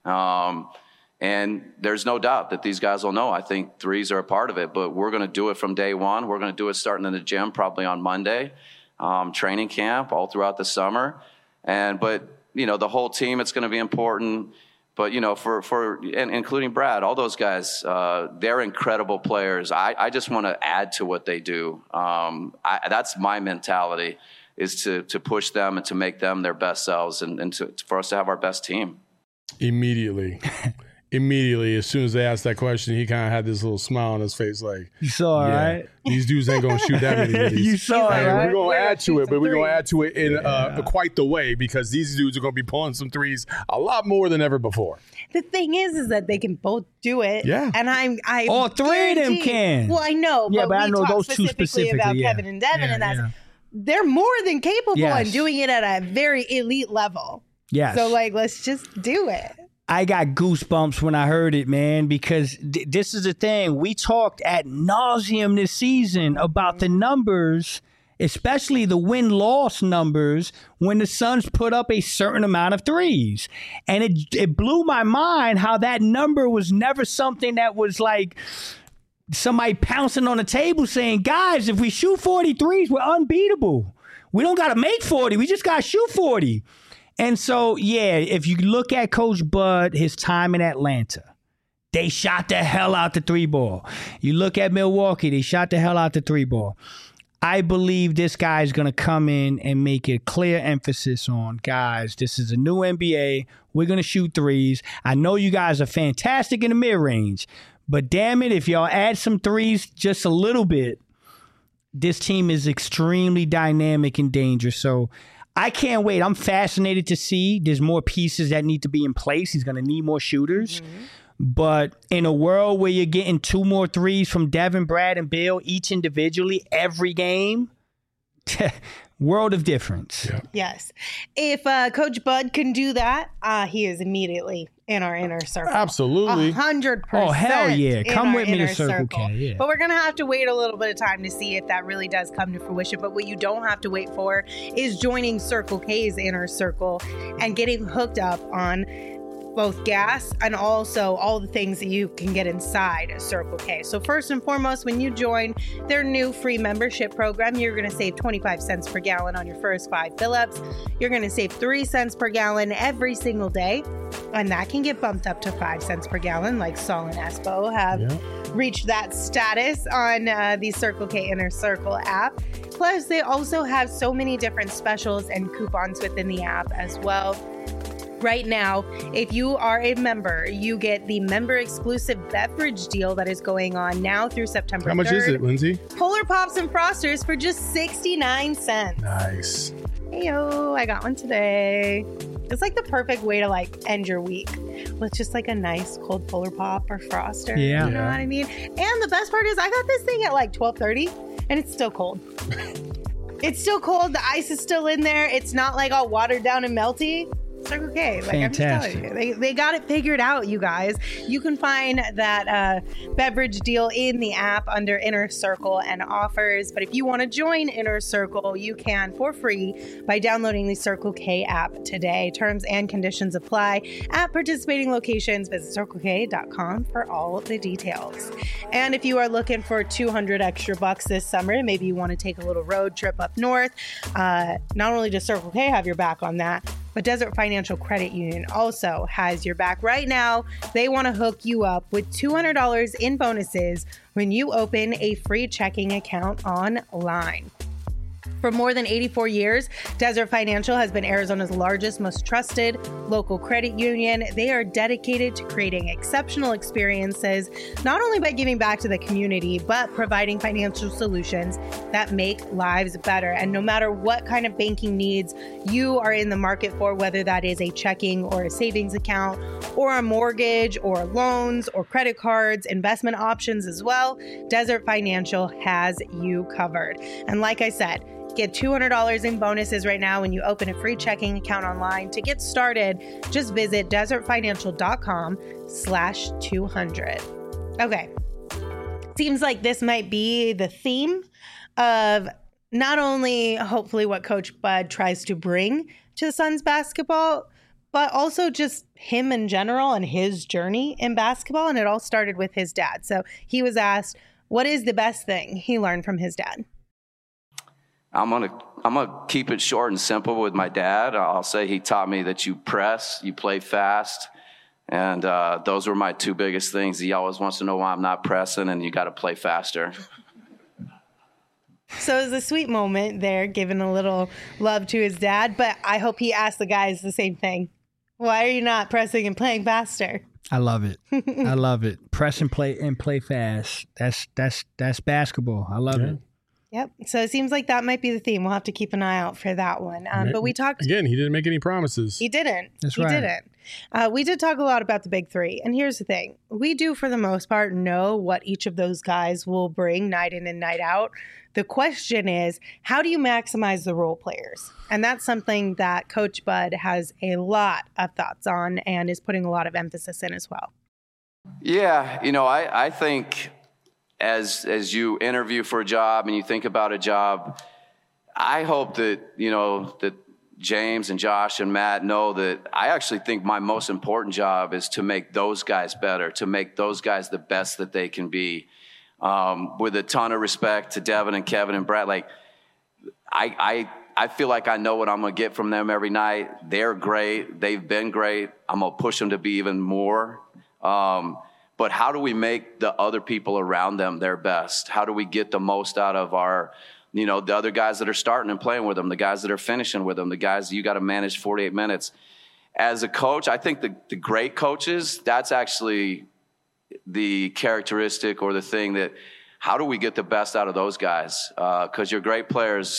Um, and there's no doubt that these guys will know. I think threes are a part of it, but we're going to do it from day one. We're going to do it starting in the gym, probably on Monday, um, training camp all throughout the summer. And, but, you know, the whole team, it's going to be important. But, you know, for, for and including Brad, all those guys, uh, they're incredible players. I, I just want to add to what they do. Um, I, that's my mentality, is to to push them and to make them their best selves, and, and to, for us to have our best team. Immediately. Immediately, as soon as they asked that question, he kind of had this little smile on his face like, you saw it, yeah, right? These dudes ain't going to shoot that many of these. You saw it, right? We're going to add to it, but we're going to add to it in uh, quite the way, because these dudes are going to be pulling some threes a lot more than ever before. The thing is, is that they can both do it. Yeah. And I'm, I all three of them can. Well, I know, yeah, but, but we I know talk those two specifically, specifically about yeah. Kevin and Devin, yeah, and that's yeah. they're more than capable yes. and doing it at a very elite level. Yes. So, like, let's just do it. I got goosebumps when I heard it, man, because th- this is the thing. We talked ad nauseum this season about the numbers, especially the win-loss numbers, when the Suns put up a certain amount of threes. And it it blew my mind how that number was never something that was like somebody pouncing on the table saying, guys, if we shoot forty threes, we're unbeatable. We don't got to make forty. We just got to shoot forty. And so, yeah, if you look at Coach Bud, his time in Atlanta, they shot the hell out the three ball. You look at Milwaukee, they shot the hell out the three ball. I believe this guy is going to come in and make a clear emphasis on, guys, this is a new N B A. We're going to shoot threes. I know you guys are fantastic in the mid-range, but damn it, if y'all add some threes just a little bit, this team is extremely dynamic and dangerous. So I can't wait. I'm fascinated to see. There's more pieces that need to be in place. He's going to need more shooters. Mm-hmm. But in a world where you're getting two more threes from Devin, Brad, and Bill, each individually, every game, world of difference. Yeah. Yes. If uh, Coach Bud can do that, uh, he is immediately in our inner circle. Absolutely. A hundred percent. Oh, hell yeah. in Come our with me to inner Circle K, yeah. But we're going to have to wait a little bit of time to see if that really does come to fruition. But what you don't have to wait for is joining Circle K's inner circle and getting hooked up on both gas and also all the things that you can get inside a Circle K. So first and foremost, when you join their new free membership program, you're going to save twenty-five cents per gallon on your first five fill-ups. You're going to save three cents per gallon every single day. And that can get bumped up to five cents per gallon, like Saul and Espo have Yeah. reached that status on uh, the Circle K Inner Circle app. Plus, they also have so many different specials and coupons within the app as well. Right now, if you are a member, you get the member exclusive beverage deal that is going on now through September How much third. is it, Lindsay? Polar Pops and Frosters for just sixty-nine cents. Nice. Heyo, I got one today. It's like the perfect way to like end your week with just like a nice cold Polar Pop or Froster. Yeah. You know Yeah. what I mean? And the best part is I got this thing at like twelve thirty and it's still cold. It's still cold. The ice is still in there. It's not like all watered down and melty. It's like, okay, like I'm just Fantastic. telling you, they, they got it figured out, you guys. You can find that uh, beverage deal in the app under Inner Circle and offers. But if you want to join Inner Circle, you can for free by downloading the Circle K app today. Terms and conditions apply at participating locations. Visit circle k dot com for all the details. And if you are looking for two hundred extra bucks this summer, maybe you want to take a little road trip up north, uh, not only does Circle K have your back on that, but Desert Financial Credit Union also has your back. Right now, they want to hook you up with two hundred dollars in bonuses when you open a free checking account online. For more than eighty-four years, Desert Financial has been Arizona's largest, most trusted local credit union. They are dedicated to creating exceptional experiences, not only by giving back to the community, but providing financial solutions that make lives better. And no matter what kind of banking needs you are in the market for, whether that is a checking or a savings account, or a mortgage, or loans, or credit cards, investment options as well, Desert Financial has you covered. And like I said, get two hundred dollars in bonuses right now when you open a free checking account online. To get started, just visit desert financial dot com slash two hundred. Okay. Seems like this might be the theme of not only hopefully what Coach Bud tries to bring to the Suns basketball, but also just him in general and his journey in basketball. And it all started with his dad. So he was asked, what is the best thing he learned from his dad? I'm gonna I'm gonna keep it short and simple with my dad. I'll say he taught me that you press, you play fast, and uh, those were my two biggest things. He always wants to know why I'm not pressing, and you got to play faster. So it was a sweet moment there, giving a little love to his dad. But I hope he asked the guys the same thing. Why are you not pressing and playing faster? I love it. I love it. Press and play and play fast. That's that's that's basketball. I love Yeah. it. Yep. So it seems like that might be the theme. We'll have to keep an eye out for that one. Um, but we talked. Again, he didn't make any promises. He didn't. That's he right. didn't. Uh, we did talk a lot about the big three. And here's the thing. We do, for the most part, know what each of those guys will bring night in and night out. The question is, how do you maximize the role players? And that's something that Coach Bud has a lot of thoughts on and is putting a lot of emphasis in as well. Yeah, you know, I, I think as as you interview for a job and you think about a job, I hope that, you know, that James and Josh and Matt know that I actually think my most important job is to make those guys better, to make those guys the best that they can be. Um, with a ton of respect to Devin and Kevin and Brett, like I, I, I feel like I know what I'm going to get from them every night. They're great. They've been great. I'm going to push them to be even more. Um, but how do we make the other people around them their best? How do we get the most out of our, you know, the other guys that are starting and playing with them, the guys that are finishing with them, the guys you got to manage forty-eight minutes. As a coach, I think the, the great coaches, that's actually the characteristic or the thing that, how do we get the best out of those guys? Because uh, your great players,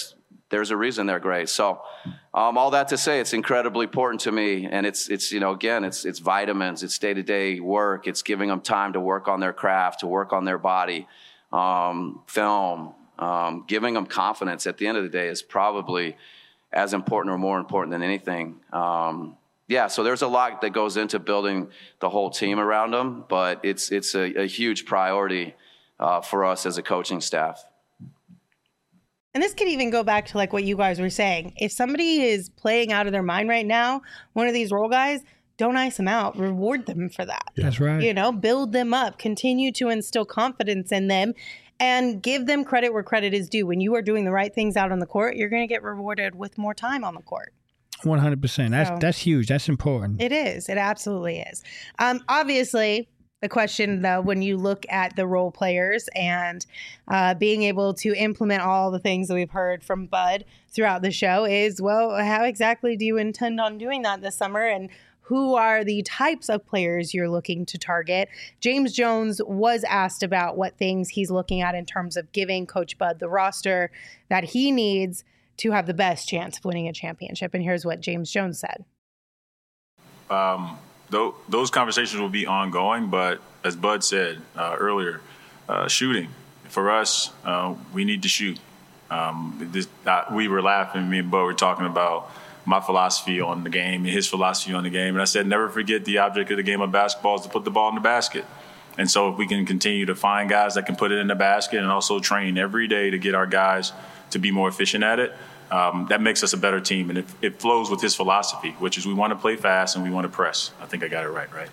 there's a reason they're great. So um, all that to say, it's incredibly important to me. And it's, it's you know, again, it's it's vitamins, it's day-to-day work. It's giving them time to work on their craft, to work on their body, um, film, um, giving them confidence at the end of the day is probably as important or more important than anything. Um, yeah, so there's a lot that goes into building the whole team around them, but it's, it's a, a huge priority uh, for us as a coaching staff. And this could even go back to like what you guys were saying. If somebody is playing out of their mind right now, one of these role guys, don't ice them out. Reward them for that. Yeah. That's right. You know, build them up. Continue to instill confidence in them and give them credit where credit is due. When you are doing the right things out on the court, you're going to get rewarded with more time on the court. one hundred percent. That's, So- that's huge. That's important. It is. It absolutely is. Um, obviously, the question, though, when you look at the role players and uh, being able to implement all the things that we've heard from Bud throughout the show is, well, how exactly do you intend on doing that this summer? And who are the types of players you're looking to target? James Jones was asked about what things he's looking at in terms of giving Coach Bud the roster that he needs to have the best chance of winning a championship. And here's what James Jones said. Um, th- those conversations will be ongoing, but as Bud said uh, earlier, uh, shooting. For us, uh, we need to shoot. Um, this, uh, we were laughing, me and Bud were talking about my philosophy on the game and his philosophy on the game. And I said, never forget the object of the game of basketball is to put the ball in the basket. And so if we can continue to find guys that can put it in the basket and also train every day to get our guys to be more efficient at it, um, that makes us a better team. And it, it flows with his philosophy, which is we want to play fast and we want to press. I think I got it right, right?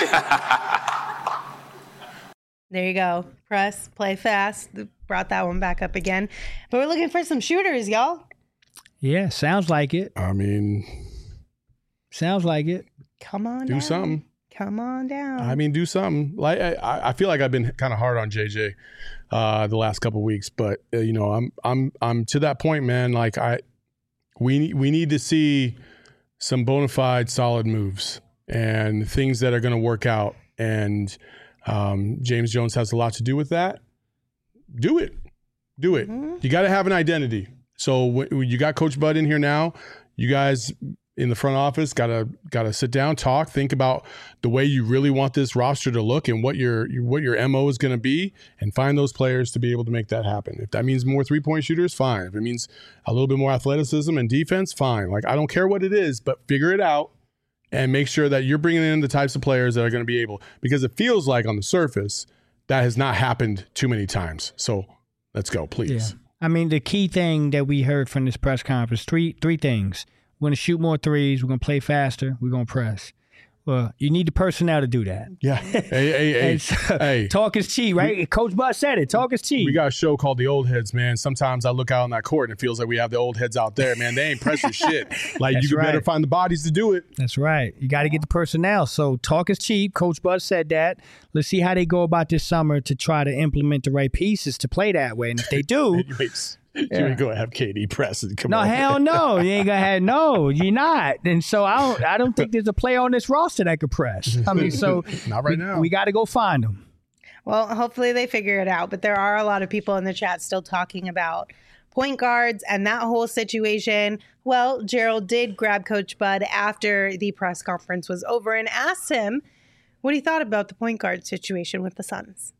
There you go. Press, play fast. Brought that one back up again. But we're looking for some shooters, y'all. Yeah, sounds like it. I mean, Sounds like it. Come on do down. something. Come on down. I mean, do something. Like I, I feel like I've been kind of hard on J J uh, the last couple of weeks, but uh, you know, I'm I'm I'm to that point, man. Like I, we we need to see some bona fide, solid moves and things that are going to work out. And um, James Jones has a lot to do with that. Do it, do it. Mm-hmm. You got to have an identity. So when you got Coach Bud in here now, you guys in the front office gotta gotta sit down, talk, think about the way you really want this roster to look and what your what your M O is going to be, and find those players to be able to make that happen. If that means more three point shooters, fine. If it means a little bit more athleticism and defense, fine. Like I don't care what it is, but figure it out and make sure that you're bringing in the types of players that are going to be able. Because it feels like on the surface that has not happened too many times. So let's go, please. Yeah. I mean, the key thing that we heard from this press conference, three three things. We're going to shoot more threes. We're going to play faster. We're going to press. Well, you need the personnel to do that. Yeah. Hey, hey, hey. And so, hey. Talk is cheap, right? We, Coach Bud said it. Talk is cheap. We got a show called The Old Heads, man. Sometimes I look out on that court and it feels like we have the old heads out there, man. They ain't pressing shit. Like, That's you right. better find the bodies to do it. That's right. You got to get the personnel. So talk is cheap. Coach Bud said that. Let's see how they go about this summer to try to implement the right pieces to play that way. And if they do, Anyways, you ain't going to have K D press and come no, on. hell no. You ain't gonna have no. You're not. And so I don't. I don't think there's a player on this roster that could press. I mean, so Not right we, now. We got to go find them. Well, hopefully they figure it out. But there are a lot of people in the chat still talking about point guards and that whole situation. Well, Gerald did grab Coach Bud after the press conference was over and asked him what he thought about the point guard situation with the Suns.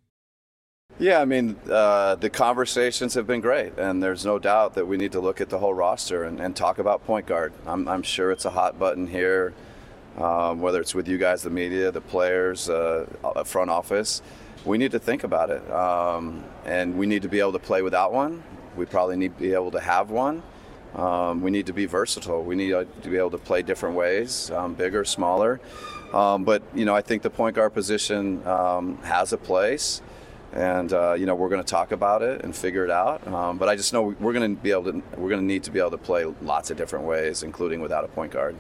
Yeah, I mean, uh, the conversations have been great, and there's no doubt that we need to look at the whole roster and, and talk about point guard. I'm, I'm sure it's a hot button here, um, whether it's with you guys, the media, the players, uh, front office. We need to think about it, um, and we need to be able to play without one. We probably need to be able to have one. Um, we need to be versatile. We need to be able to play different ways, um, bigger, smaller. Um, but, you know, I think the point guard position um, has a place. And, uh, you know, we're going to talk about it and figure it out. Um, but I just know we're going to be able to, we're going to need to be able to play lots of different ways, including without a point guard.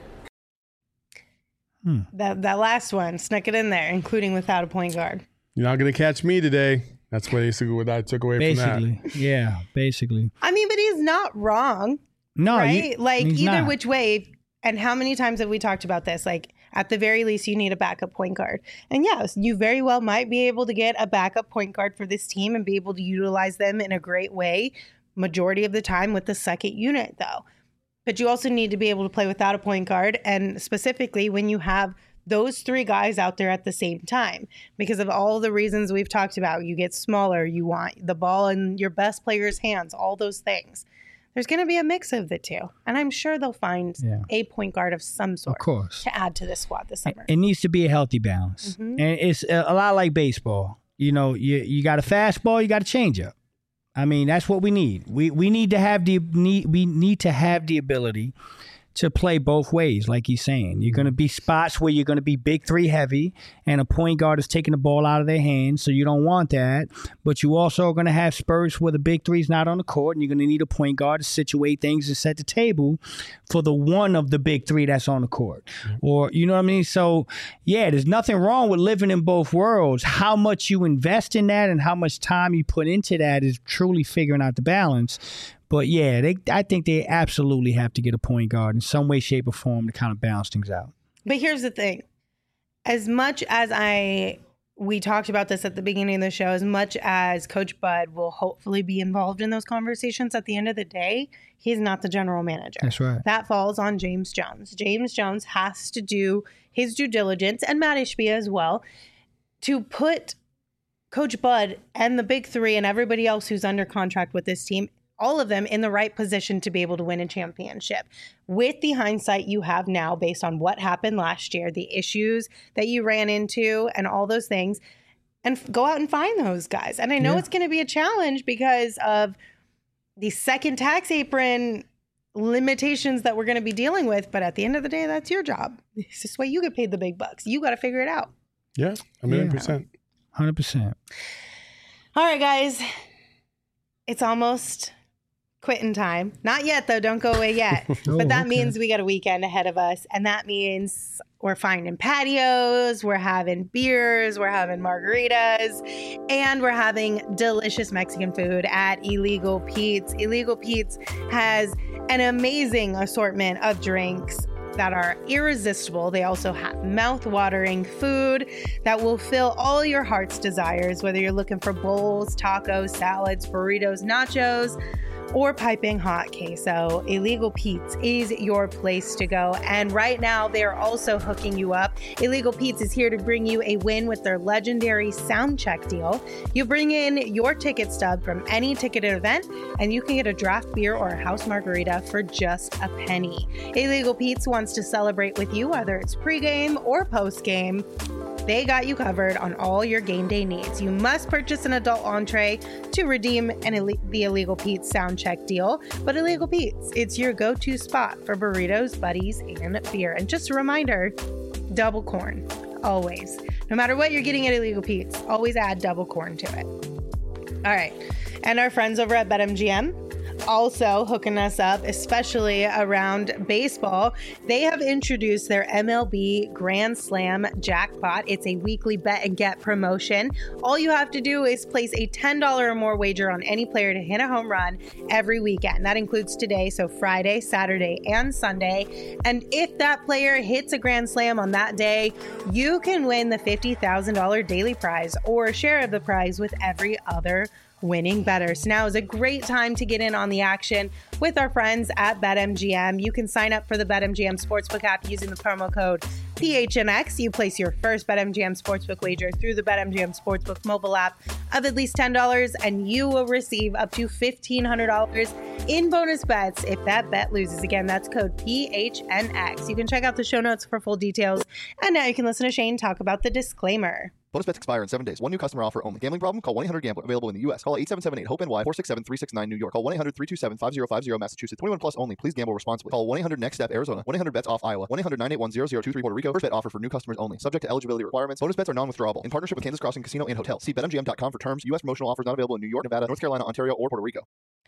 Hmm. That that last one, snuck it in there, including without a point guard. You're not going to catch me today. That's basically what I took away Basically, from that. yeah, basically. I mean, but he's not wrong, No, right? you- like he's either not. which way. And how many times have we talked about this? Like, at the very least, you need a backup point guard. And yes, you very well might be able to get a backup point guard for this team and be able to utilize them in a great way. majority of the time with the second unit, though. But you also need to be able to play without a point guard, and specifically when you have those three guys out there at the same time, because of all the reasons we've talked about. You get smaller, you want the ball in your best player's hands, all those things. There's going to be a mix of the two, and I'm sure they'll find yeah. a point guard of some sort of course. to add to this squad this summer. It needs to be a healthy balance, mm-hmm. and it's a lot like baseball. You know, you you got a fastball, you got a changeup. I mean, that's what we need. We we need to have the need we need to have the ability to play both ways, like he's saying. You're going to be spots where you're going to be big three heavy, and a point guard is taking the ball out of their hands, so you don't want that. But you also are going to have spurts where the big three is not on the court, and you're going to need a point guard to situate things and set the table for the one of the big three that's on the court. Or, you know what I mean? So, yeah, there's nothing wrong with living in both worlds. How much you invest in that and how much time you put into that is truly figuring out the balance. But, yeah, they, I think they absolutely have to get a point guard in some way, shape, or form to kind of balance things out. But here's the thing. As much as I, we talked about this at the beginning of the show, as much as Coach Bud will hopefully be involved in those conversations, at the end of the day, he's not the general manager. That's right. That falls on James Jones. James Jones has to do his due diligence, and Matt Ishbia as well, to put Coach Bud and the big three and everybody else who's under contract with this team, all of them in the right position to be able to win a championship. With the hindsight you have now based on what happened last year, the issues that you ran into and all those things, and f- go out and find those guys. And I know yeah. it's going to be a challenge because of the second tax apron limitations that we're going to be dealing with. But at the end of the day, that's your job. It's this way you get paid the big bucks. You got to figure it out. Yeah, a million yeah. percent. one hundred percent. All right, guys. It's almost quitting time. Not yet, though. Don't go away yet. oh, but that okay. means we got a weekend ahead of us. And that means we're finding patios, we're having beers, we're having margaritas, and we're having delicious Mexican food at Illegal Pete's. Illegal Pete's has an amazing assortment of drinks that are irresistible. They also have mouth-watering food that will fill all your heart's desires, whether you're looking for bowls, tacos, salads, burritos, nachos, or piping hot queso. Illegal Pete's is your place to go. And right now, they're also hooking you up. Illegal Pete's is here to bring you a win with their legendary sound check deal. You bring in your ticket stub from any ticketed event, and you can get a draft beer or a house margarita for just a penny. Illegal Pete's wants to celebrate with you, whether it's pregame or postgame. They got you covered on all your game day needs. You must purchase an adult entree to redeem an Ill- the Illegal Pete's sound check deal. But Illegal Pete's, it's your go-to spot for burritos, buddies, and beer. And just a reminder, double corn, always. No matter what you're getting at Illegal Pete's, always add double corn to it. All right. And our friends over at BetMGM, also hooking us up, especially around baseball. They have introduced their M L B Grand Slam Jackpot. It's a weekly bet and get promotion. All you have to do is place a ten dollars or more wager on any player to hit a home run every weekend. That includes today, so Friday, Saturday, and Sunday. And if that player hits a Grand Slam on that day, you can win the fifty thousand dollars daily prize or a share of the prize with every other winning better. So now is a great time to get in on the action with our friends at BetMGM. You can sign up for the BetMGM Sportsbook app using the promo code P H N X. You place your first BetMGM Sportsbook wager through the BetMGM Sportsbook mobile app of at least ten dollars, and you will receive up to fifteen hundred dollars in bonus bets if that bet loses. Again, that's code P H N X. You can check out the show notes for full details. And now you can listen to Shane talk about the disclaimer. Bonus bets expire in seven days. One new customer offer only. Gambling problem? Call one eight hundred gambler. Available in the U S. Call eight seven seven eight hope N Y four six seven three six nine New York. Call one eight hundred three two seven five zero five zero Massachusetts. twenty-one plus only. Please gamble responsibly. Call one eight hundred next step Arizona. one eight hundred bets off Iowa. one eight hundred nine eight one zero zero two three Puerto Rico. First bet offer for new customers only. Subject to eligibility requirements. Bonus bets are non-withdrawable. In partnership with Kansas Crossing Casino and Hotel. See bet M G M dot com for terms. U S promotional offers not available in New York, Nevada, North Carolina, Ontario, or Puerto Rico.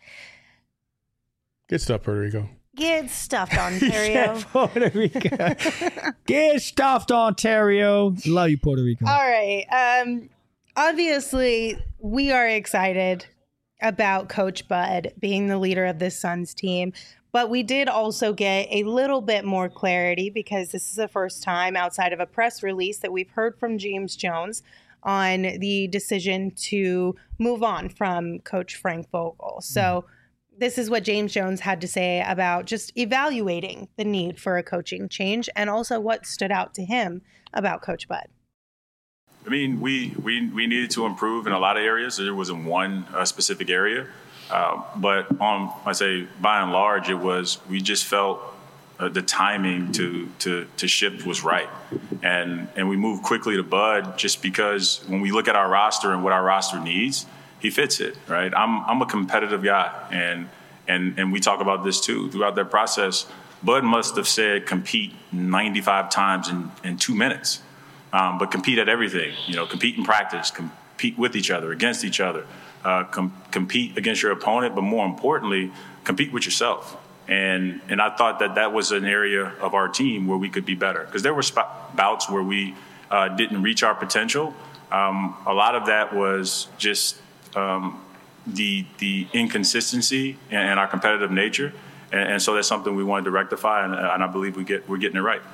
Good stuff, Puerto Rico. Get stuffed, Ontario. Puerto Rico. Get stuffed, Ontario. Love you, Puerto Rico. All right. Um, obviously, we are excited about Coach Bud being the leader of this Suns team, but we did also get a little bit more clarity because this is the first time outside of a press release that we've heard from James Jones on the decision to move on from Coach Frank Vogel. So this is what James Jones had to say about just evaluating the need for a coaching change and also what stood out to him about Coach Bud. I mean, we, we, we needed to improve in a lot of areas. There wasn't one uh, specific area. Uh, but on, I say, by and large, it was, we just felt uh, the timing to, to, to shift was right. And, and we moved quickly to Bud just because when we look at our roster and what our roster needs, he fits it, right? I'm, I'm a competitive guy. And, and, and we talk about this too. Throughout that process, Bud must have said compete ninety-five times in, in two minutes. Um, but compete at everything, you know, compete in practice, compete with each other, against each other, uh, com- compete against your opponent, but more importantly, compete with yourself. And and I thought that that was an area of our team where we could be better because there were sp- bouts where we uh, didn't reach our potential. Um, a lot of that was just um, the the inconsistency and, and our competitive nature, and, and so that's something we wanted to rectify, and, and I believe we get we're getting it right.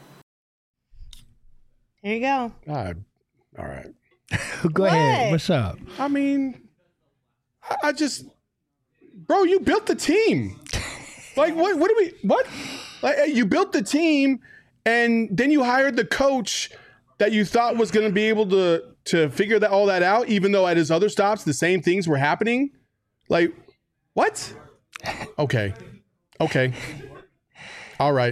There you go. Uh, all right. Go What? ahead. What's up? I mean, I, I just, bro, you built the team. Like, what? What do we? What? Like, you built the team, and then you hired the coach that you thought was going to be able to to figure that all that out, even though at his other stops the same things were happening. Like, what? Okay, okay, all right.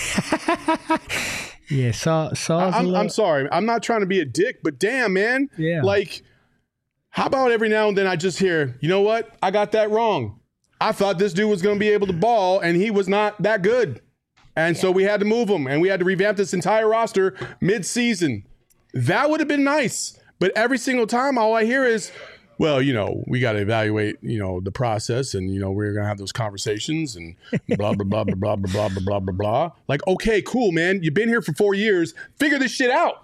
Yeah, Saul. Saul's I'm, a little, I'm sorry. I'm not trying to be a dick, but damn, man. Yeah. Like, how about every now and then I just hear, you know what? I got that wrong. I thought this dude was going to be able to ball, and he was not that good. And yeah. so we had to move him, and we had to revamp this entire roster mid-season. That would have been nice. But every single time, all I hear is, well, you know, we got to evaluate, you know, the process, and, you know, we're going to have those conversations and blah, blah, blah, blah, blah, blah, blah, blah, blah, blah, blah. Like, okay, cool, man. You've been here for four years. Figure this shit out.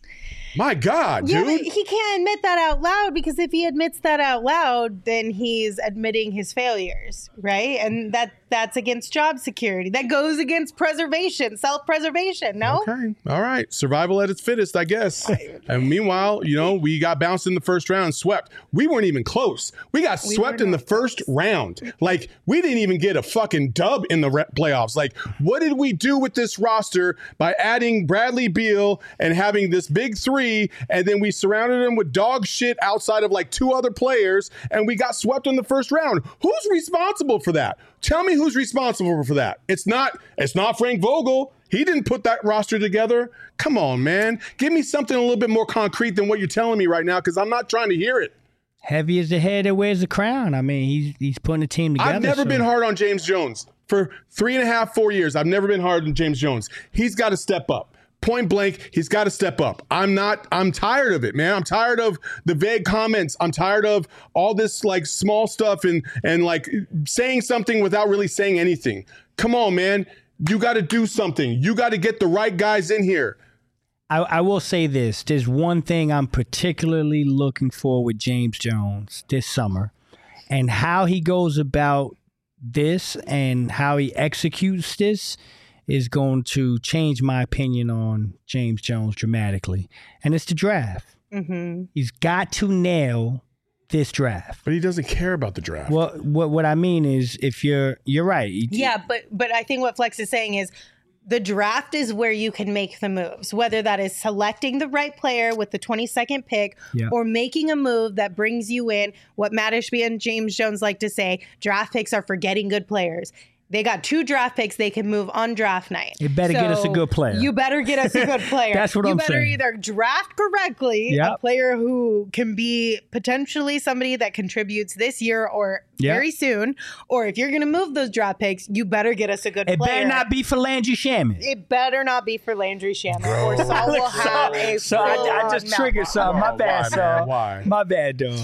My God, yeah, dude. But he can't admit that out loud because if he admits that out loud, then he's admitting his failures, right? And that that's against job security. That goes against preservation, self-preservation, no? Okay. All right. Survival at its fittest, I guess. And meanwhile, you know, we got bounced in the first round and swept. We weren't even close. We got we swept in the first round. Like, we didn't even get a fucking dub in the re- playoffs. Like, what did we do with this roster by adding Bradley Beal and having this big three, and then we surrounded him with dog shit outside of like two other players, and we got swept in the first round? Who's responsible for that? Tell me who's responsible for that. It's not it's not Frank Vogel. He didn't put that roster together. Come on, man. Give me something a little bit more concrete than what you're telling me right now, because I'm not trying to hear it. Heavy as the head that wears the crown. I mean, he's he's putting a team together. I've never so. been hard on James Jones. For three and a half, four years, I've never been hard on James Jones. He's got to step up. Point blank, he's got to step up. I'm not, I'm tired of it, man. I'm tired of the vague comments. I'm tired of all this like small stuff and and like saying something without really saying anything. Come on, man. You got to do something. You got to get the right guys in here. I, I will say this. There's one thing I'm particularly looking for with James Jones this summer, and how he goes about this and how he executes this is going to change my opinion on James Jones dramatically. And it's the draft. Mm-hmm. He's got to nail this draft. But he doesn't care about the draft. Well, what what I mean is, if you're you're right. Yeah, but but I think what Flex is saying is the draft is where you can make the moves, whether that is selecting the right player with the twenty-second pick yeah. or making a move that brings you in. What Matt Ishby and James Jones like to say, draft picks are for getting good players. They got two draft picks they can move on draft night. You better so get us a good player. You better get us a good player. That's what you I'm saying. You better either draft correctly yep. a player who can be potentially somebody that contributes this year or yep. very soon, or if you're going to move those draft picks, you better get us a good it player. It better not be for Landry Shaman. It better not be for Landry Shaman, or Saul will have a So I, I just triggered something. My bad, Saul. Why? My bad, dog.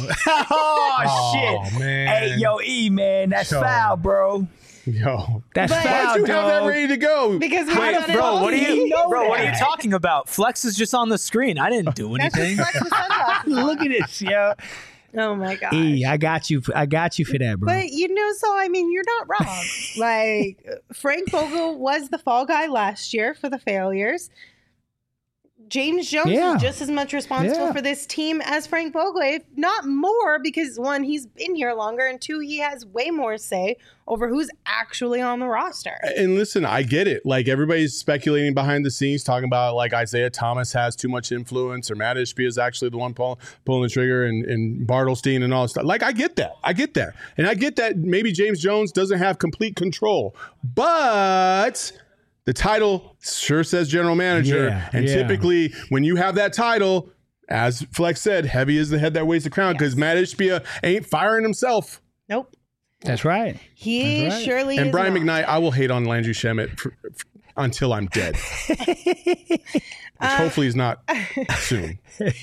oh, oh, shit. Man. Hey, yo, E, man, that's Yo. foul, bro. Yo, that's but, foul, why'd you dog. have that ready to go? Because we Wait, got bro, it what are you, know bro? that. What are you talking about? Flex is just on the screen. I didn't do anything. Look at this, yo. Oh my god. E, I got you. I got you for that, bro. But you know, so I mean, you're not wrong. Like Frank Vogel was the fall guy last year for the failures. James Jones Yeah. is just as much responsible Yeah. for this team as Frank Vogel, if not more, because one, he's been here longer, and two, he has way more say over who's actually on the roster. And listen, I get it. Like everybody's speculating behind the scenes, talking about like Isaiah Thomas has too much influence, or Matt Ishbia is actually the one pull, pulling the trigger, and, and Bartlestein and all this stuff. Like I get that. I get that. And I get that maybe James Jones doesn't have complete control. But the title sure says general manager. Yeah, and yeah. typically when you have that title, as Flex said, heavy is the head that weighs the crown, because Matt Ishbia ain't firing himself. Nope. That's right. He That's right. surely And is Brian not. McKnight, I will hate on Landry Shamet for, for, until I'm dead. Which hopefully is not soon.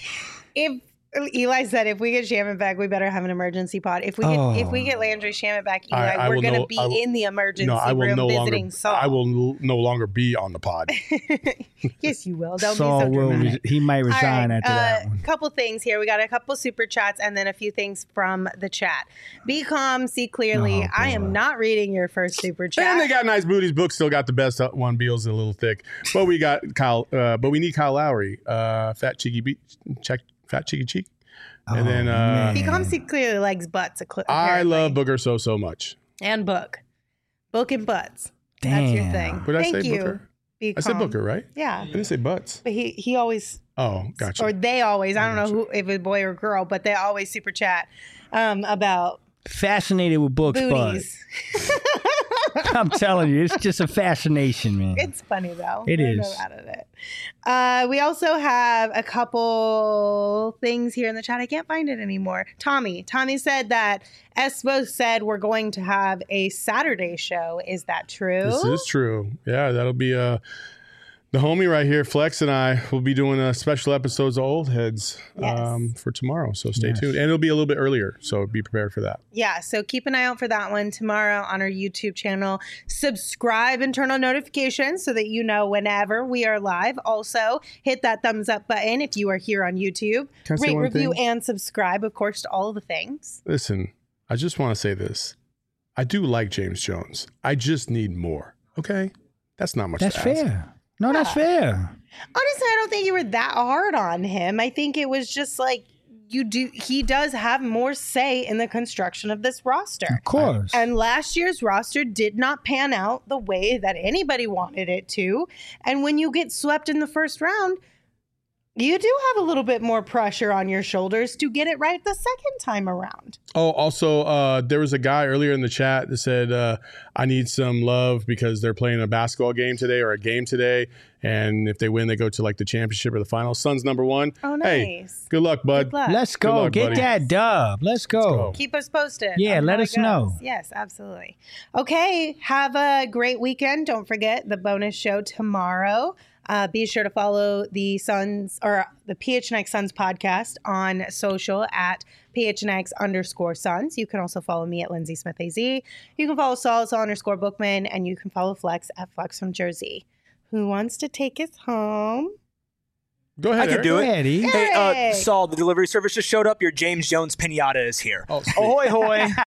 If Eli said, if we get Shamet back, we better have an emergency pod. If we get Oh. if we get Landry Shamet back, Eli, I- I we're will going to no- be I will- in the emergency No, I will room no visiting longer. Saul. I will n- no longer be on the pod. Yes, you will. Don't Saul be so will. dramatic. Re- he might All resign right, after that uh, one. couple things here. We got a couple super chats and then a few things from the chat. Be calm, see clearly. Oh, I am boy. not reading your first super chat. And they got nice booties. Book still got the best uh, one. Beal's a little thick, but we got Kyle. Uh, but we need Kyle Lowry. Uh, fat cheeky beat. Check fat cheeky cheek. And then uh, Be calm, see clearly likes butts. acc- I apparently. love Booker so so much. and book, book and butts. That's your Damn. thing. What did I Thank say, you. Booker? Be I said calm. Booker, right? Yeah, I didn't say butts. but he he always Oh, gotcha. or they always. I don't know who if it's boy or girl, but they always super chat um, about Fascinated with books, booties. bud. I'm telling you, it's just a fascination, man. It's funny though. It There's is. no doubt of it. Uh, we also have a couple things here in the chat. I can't find it anymore. Tommy. Tommy said that Espo said we're going to have a Saturday show. Is that true? This is true. Yeah, that'll be uh the homie right here, Flex, and I will be doing a special episodes of Old Heads Yes. um, for tomorrow. So stay Yes. tuned, and it'll be a little bit earlier. So be prepared for that. Yeah, so keep an eye out for that one tomorrow on our YouTube channel. Subscribe and turn on notifications so that you know whenever we are live. Also, hit that thumbs up button if you are here on YouTube. Can I say Rate, one review, thing? and subscribe, of course, to all the things. Listen, I just want to say this. I do like James Jones. I just need more. Okay, that's not much. That's to ask. fair. No, that's fair. Honestly, I don't think you were that hard on him. I think it was just like you do. He does have more say in the construction of this roster. Of course. And last year's roster did not pan out the way that anybody wanted it to. And when you get swept in the first round, you do have a little bit more pressure on your shoulders to get it right the second time around. Oh, also, uh, there was a guy earlier in the chat that said, uh, I need some love because they're playing a basketball game today or a game today. And if they win, they go to like the championship or the finals. Suns number one. Oh, Hey, nice. good luck, bud. Good luck. Let's go. luck, Get buddy. that dub. Let's go. go. Keep us posted. Yeah, on let how us it goes. know. Yes, absolutely. Okay, have a great weekend. Don't forget the bonus show tomorrow. Uh, be sure to follow the Suns or the P H N X Suns podcast on social at P H N X underscore Suns. You can also follow me at Lindsay Smith A Z. You can follow Saul, Saul underscore Bookman, and you can follow Flex at Flex from Jersey. Who wants to take us home? Go ahead. I can Eric. do it. Eddie. Hey, uh, Eric. Saul, the delivery service just showed up. Your James Jones pinata is here. Oh, sweet. Ahoy, hoy.